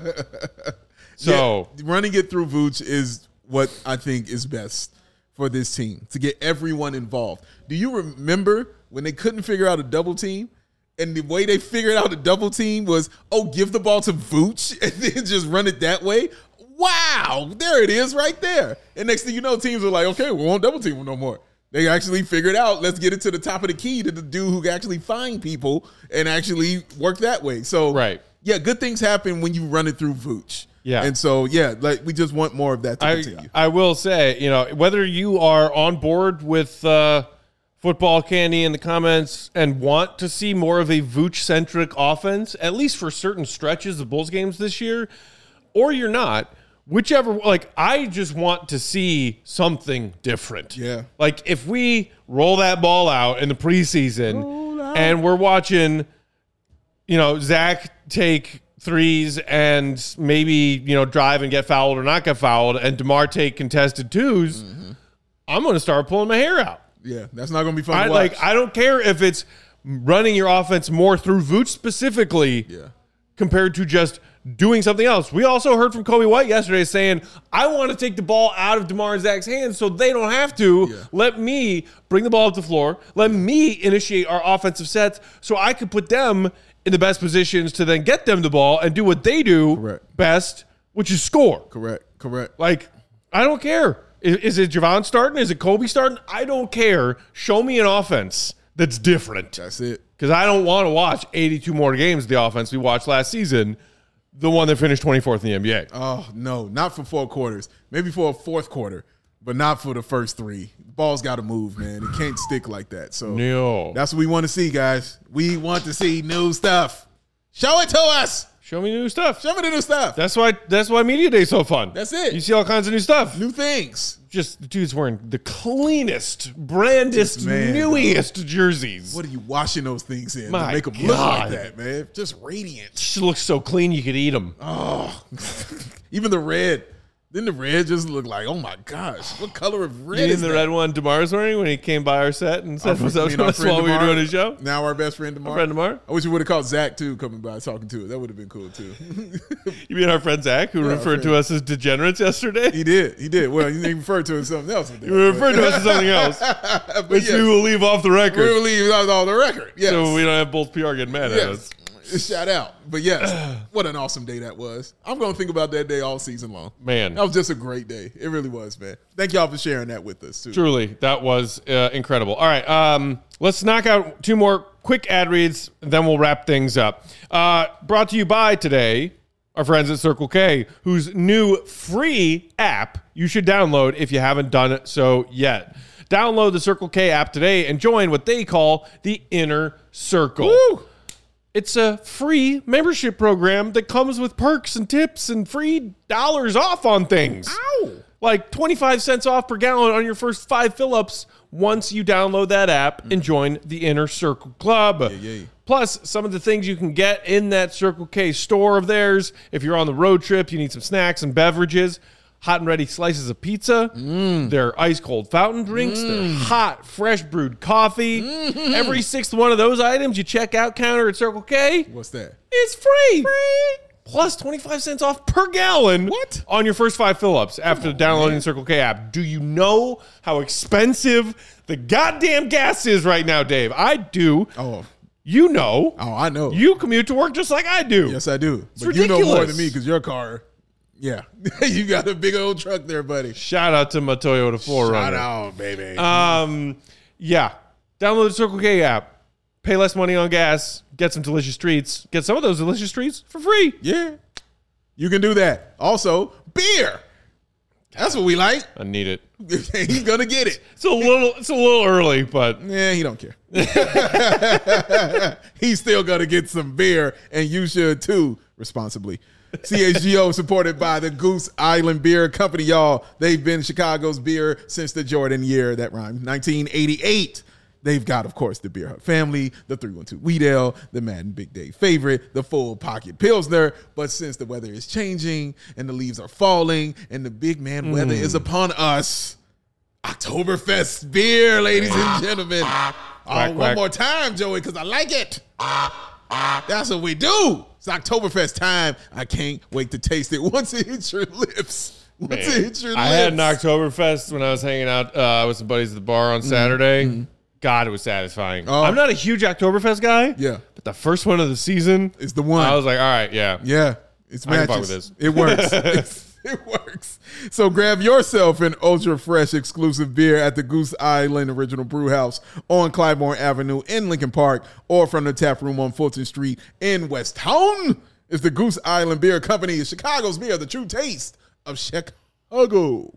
So running it through Vooch is what I think is best for this team to get everyone involved. Do you remember when they couldn't figure out a double team? And the way they figured out a double team was, give the ball to Vooch and then just run it that way. Wow, there it is right there. And next thing you know, teams are like, okay, we won't double team him no more. They actually figured out, let's get it to the top of the key to the dude who can actually find people and actually work that way. So, good things happen when you run it through Vooch. Yeah. And so, we just want more of that to continue. I will say, whether you are on board with Football Candy in the comments and want to see more of a Vooch-centric offense, at least for certain stretches of Bulls games this year, or you're not, whichever, I just want to see something different. Yeah. If we roll that ball out in the preseason and we're watching, Zach take threes and maybe, drive and get fouled or not get fouled and DeMar take contested twos, I'm going to start pulling my hair out. Yeah, that's not going to be fun to watch. I don't care if it's running your offense more through Vooch specifically compared to just doing something else. We also heard from Kobe White yesterday saying, I want to take the ball out of DeMar and Zach's hands so they don't have to. Yeah. Let me bring the ball up the floor. Let me initiate our offensive sets so I can put them in the best positions to then get them the ball and do what they do best, which is score. Correct. I don't care. Is it Javon starting? Is it Kobe starting? I don't care. Show me an offense that's different. That's it. Because I don't want to watch 82 more games of the offense we watched last season, the one that finished 24th in the NBA. Oh, no. Not for 4 quarters. Maybe for a fourth quarter, but not for the first 3. The ball's got to move, man. It can't stick like that. So that's what we want to see, guys. We want to see new stuff. Show it to us. Show me new stuff. Show me the new stuff. That's why Media Day is so fun. That's it. You see all kinds of new stuff. New things. Just the dude's wearing the cleanest, brandest, newiest jerseys. What are you washing those things in My to make them look like God. that, man? Just radiant. Just looks so clean you could eat them. Oh, even the red. Then the red just looked like, oh my gosh, what color of red You is mean the that? red one DeMar's wearing when he came by our set and said, "What's up Me to and our us friend while we were DeMar, doing a show?" Now our best friend DeMar. Our friend DeMar. I wish we would have called Zach too coming by talking to it. That would have been cool too. You mean our friend Zach, who referred to us as degenerates yesterday? He did. Well, he referred to it as something else. You referred to us as something else, which we will leave off the record. We will leave that on the record. Yes. So we don't have Bulls PR getting mad at us. Shout out. But yes, what an awesome day that was. I'm going to think about that day all season long. Man. That was just a great day. It really was, man. Thank y'all for sharing that with us, too. Truly, that was incredible. All right, let's knock out 2 more quick ad reads, then we'll wrap things up. Brought to you by today, our friends at Circle K, whose new free app you should download if you haven't done it so yet. Download the Circle K app today and join what they call the Inner Circle. Woo! It's a free membership program that comes with perks and tips and free dollars off on things. Ow! Like 25 cents off per gallon on your first 5 fill-ups once you download that app and join the Inner Circle Club. Yeah. Plus, some of the things you can get in that Circle K store of theirs. If you're on the road trip, you need some snacks and beverages. Hot and ready slices of pizza, their ice-cold fountain drinks, their hot, fresh brewed coffee. Every 6th one of those items you check out counter at Circle K What's that? is free. Plus 25 cents off per gallon on your first 5 fill-ups after downloading the Circle K app. Do you know how expensive the goddamn gas is right now, Dave? I do. Oh. You know. Oh, I know. You commute to work just like I do. Yes, I do. It's but you know more ridiculous. than me because your car, yeah. You got a big old truck there, buddy. Shout out to my Toyota 4Runner. Shout out, baby. Yeah. Download the Circle K app. Pay less money on gas. Get some delicious treats. Get some of those delicious treats for free. Yeah. You can do that. Also, beer. That's what we like. I need it. He's gonna get it. It's a little early, but Yeah, he don't care. He's still gonna get some beer, and you should too, responsibly. CHGO supported by the Goose Island Beer Company, y'all. They've been Chicago's beer since the Jordan year, that rhymed, 1988. They've got, of course, the Beer Hut family, the 312 Wheat Ale, the Madden Big Day favorite, the Full Pocket Pilsner. But since the weather is changing and the leaves are falling and the big man weather is upon us, Oktoberfest beer, ladies and gentlemen. Quack. One more time, Joey, because I like it. That's what we do. It's Oktoberfest time. I can't wait to taste it once it hits your lips. Once it hits your lips. I had an Oktoberfest when I was hanging out with some buddies at the bar on Saturday. God, it was satisfying. Oh. I'm not a huge Oktoberfest guy. Yeah. But the first one of the season, It's the one. I was like, all right, yeah. Yeah, it's I can fuck matches. with this. It works. It works. So grab yourself an ultra fresh exclusive beer at the Goose Island Original Brew House on Clybourne Avenue in Lincoln Park, or from the tap room on Fulton Street in West Town. It's the Goose Island Beer Company, Chicago's beer, the true taste of Chicago. All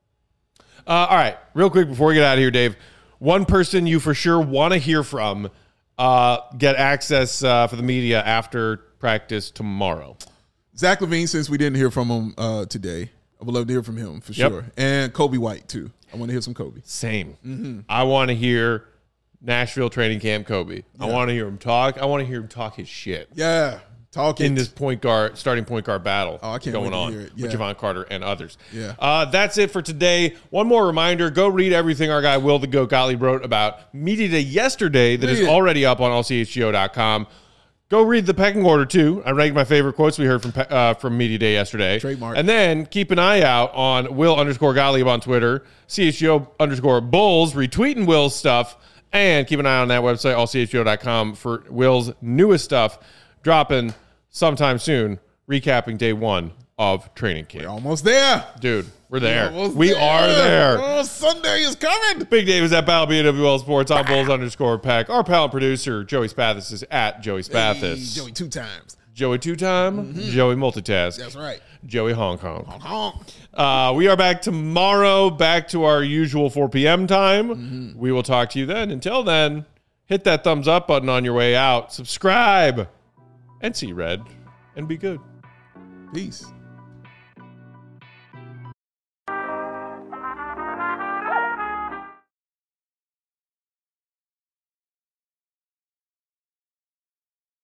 right, real quick before we get out of here, Dave. One person you for sure want to hear from, get access for the media after practice tomorrow. Zach LaVine, since we didn't hear from him today, I would love to hear from him for sure. And Kobe White, too. I want to hear some Kobe. Same. I want to hear Nashville training camp Kobe. I want to hear him talk. I want to hear him talk his shit Yeah. Talking in this starting point guard battle I can't going wait to on hear it. with Yeah. Javon Carter and others. Yeah. That's it for today. One more reminder, go read everything our guy Will the Goat Gottlieb wrote about Media Day yesterday that is Read it. already up on allchgo.com. Go read the pecking order, too. I ranked my favorite quotes we heard from Media Day yesterday. Trademark. And then keep an eye out on Will_Gottlieb on Twitter, CHGO_Bulls, retweeting Will's stuff, and keep an eye on that website, allchgo.com, for Will's newest stuff dropping sometime soon, recapping day 1 of training camp. We're almost there. Dude, we're there. Almost We are there. Oh, Sunday is coming. Big Dave is at Battle BWL Sports on Bulls_Pack. Our pal and producer, Joey Spathis, is at Joey Spathis. Hey, Joey 2 times. Joey 2-time, Joey multitask. That's right. Joey Hong Kong. Honk. We are back tomorrow, back to our usual 4 p.m. time. We will talk to you then. Until then, hit that thumbs up button on your way out. Subscribe. And see red. and be good. Peace.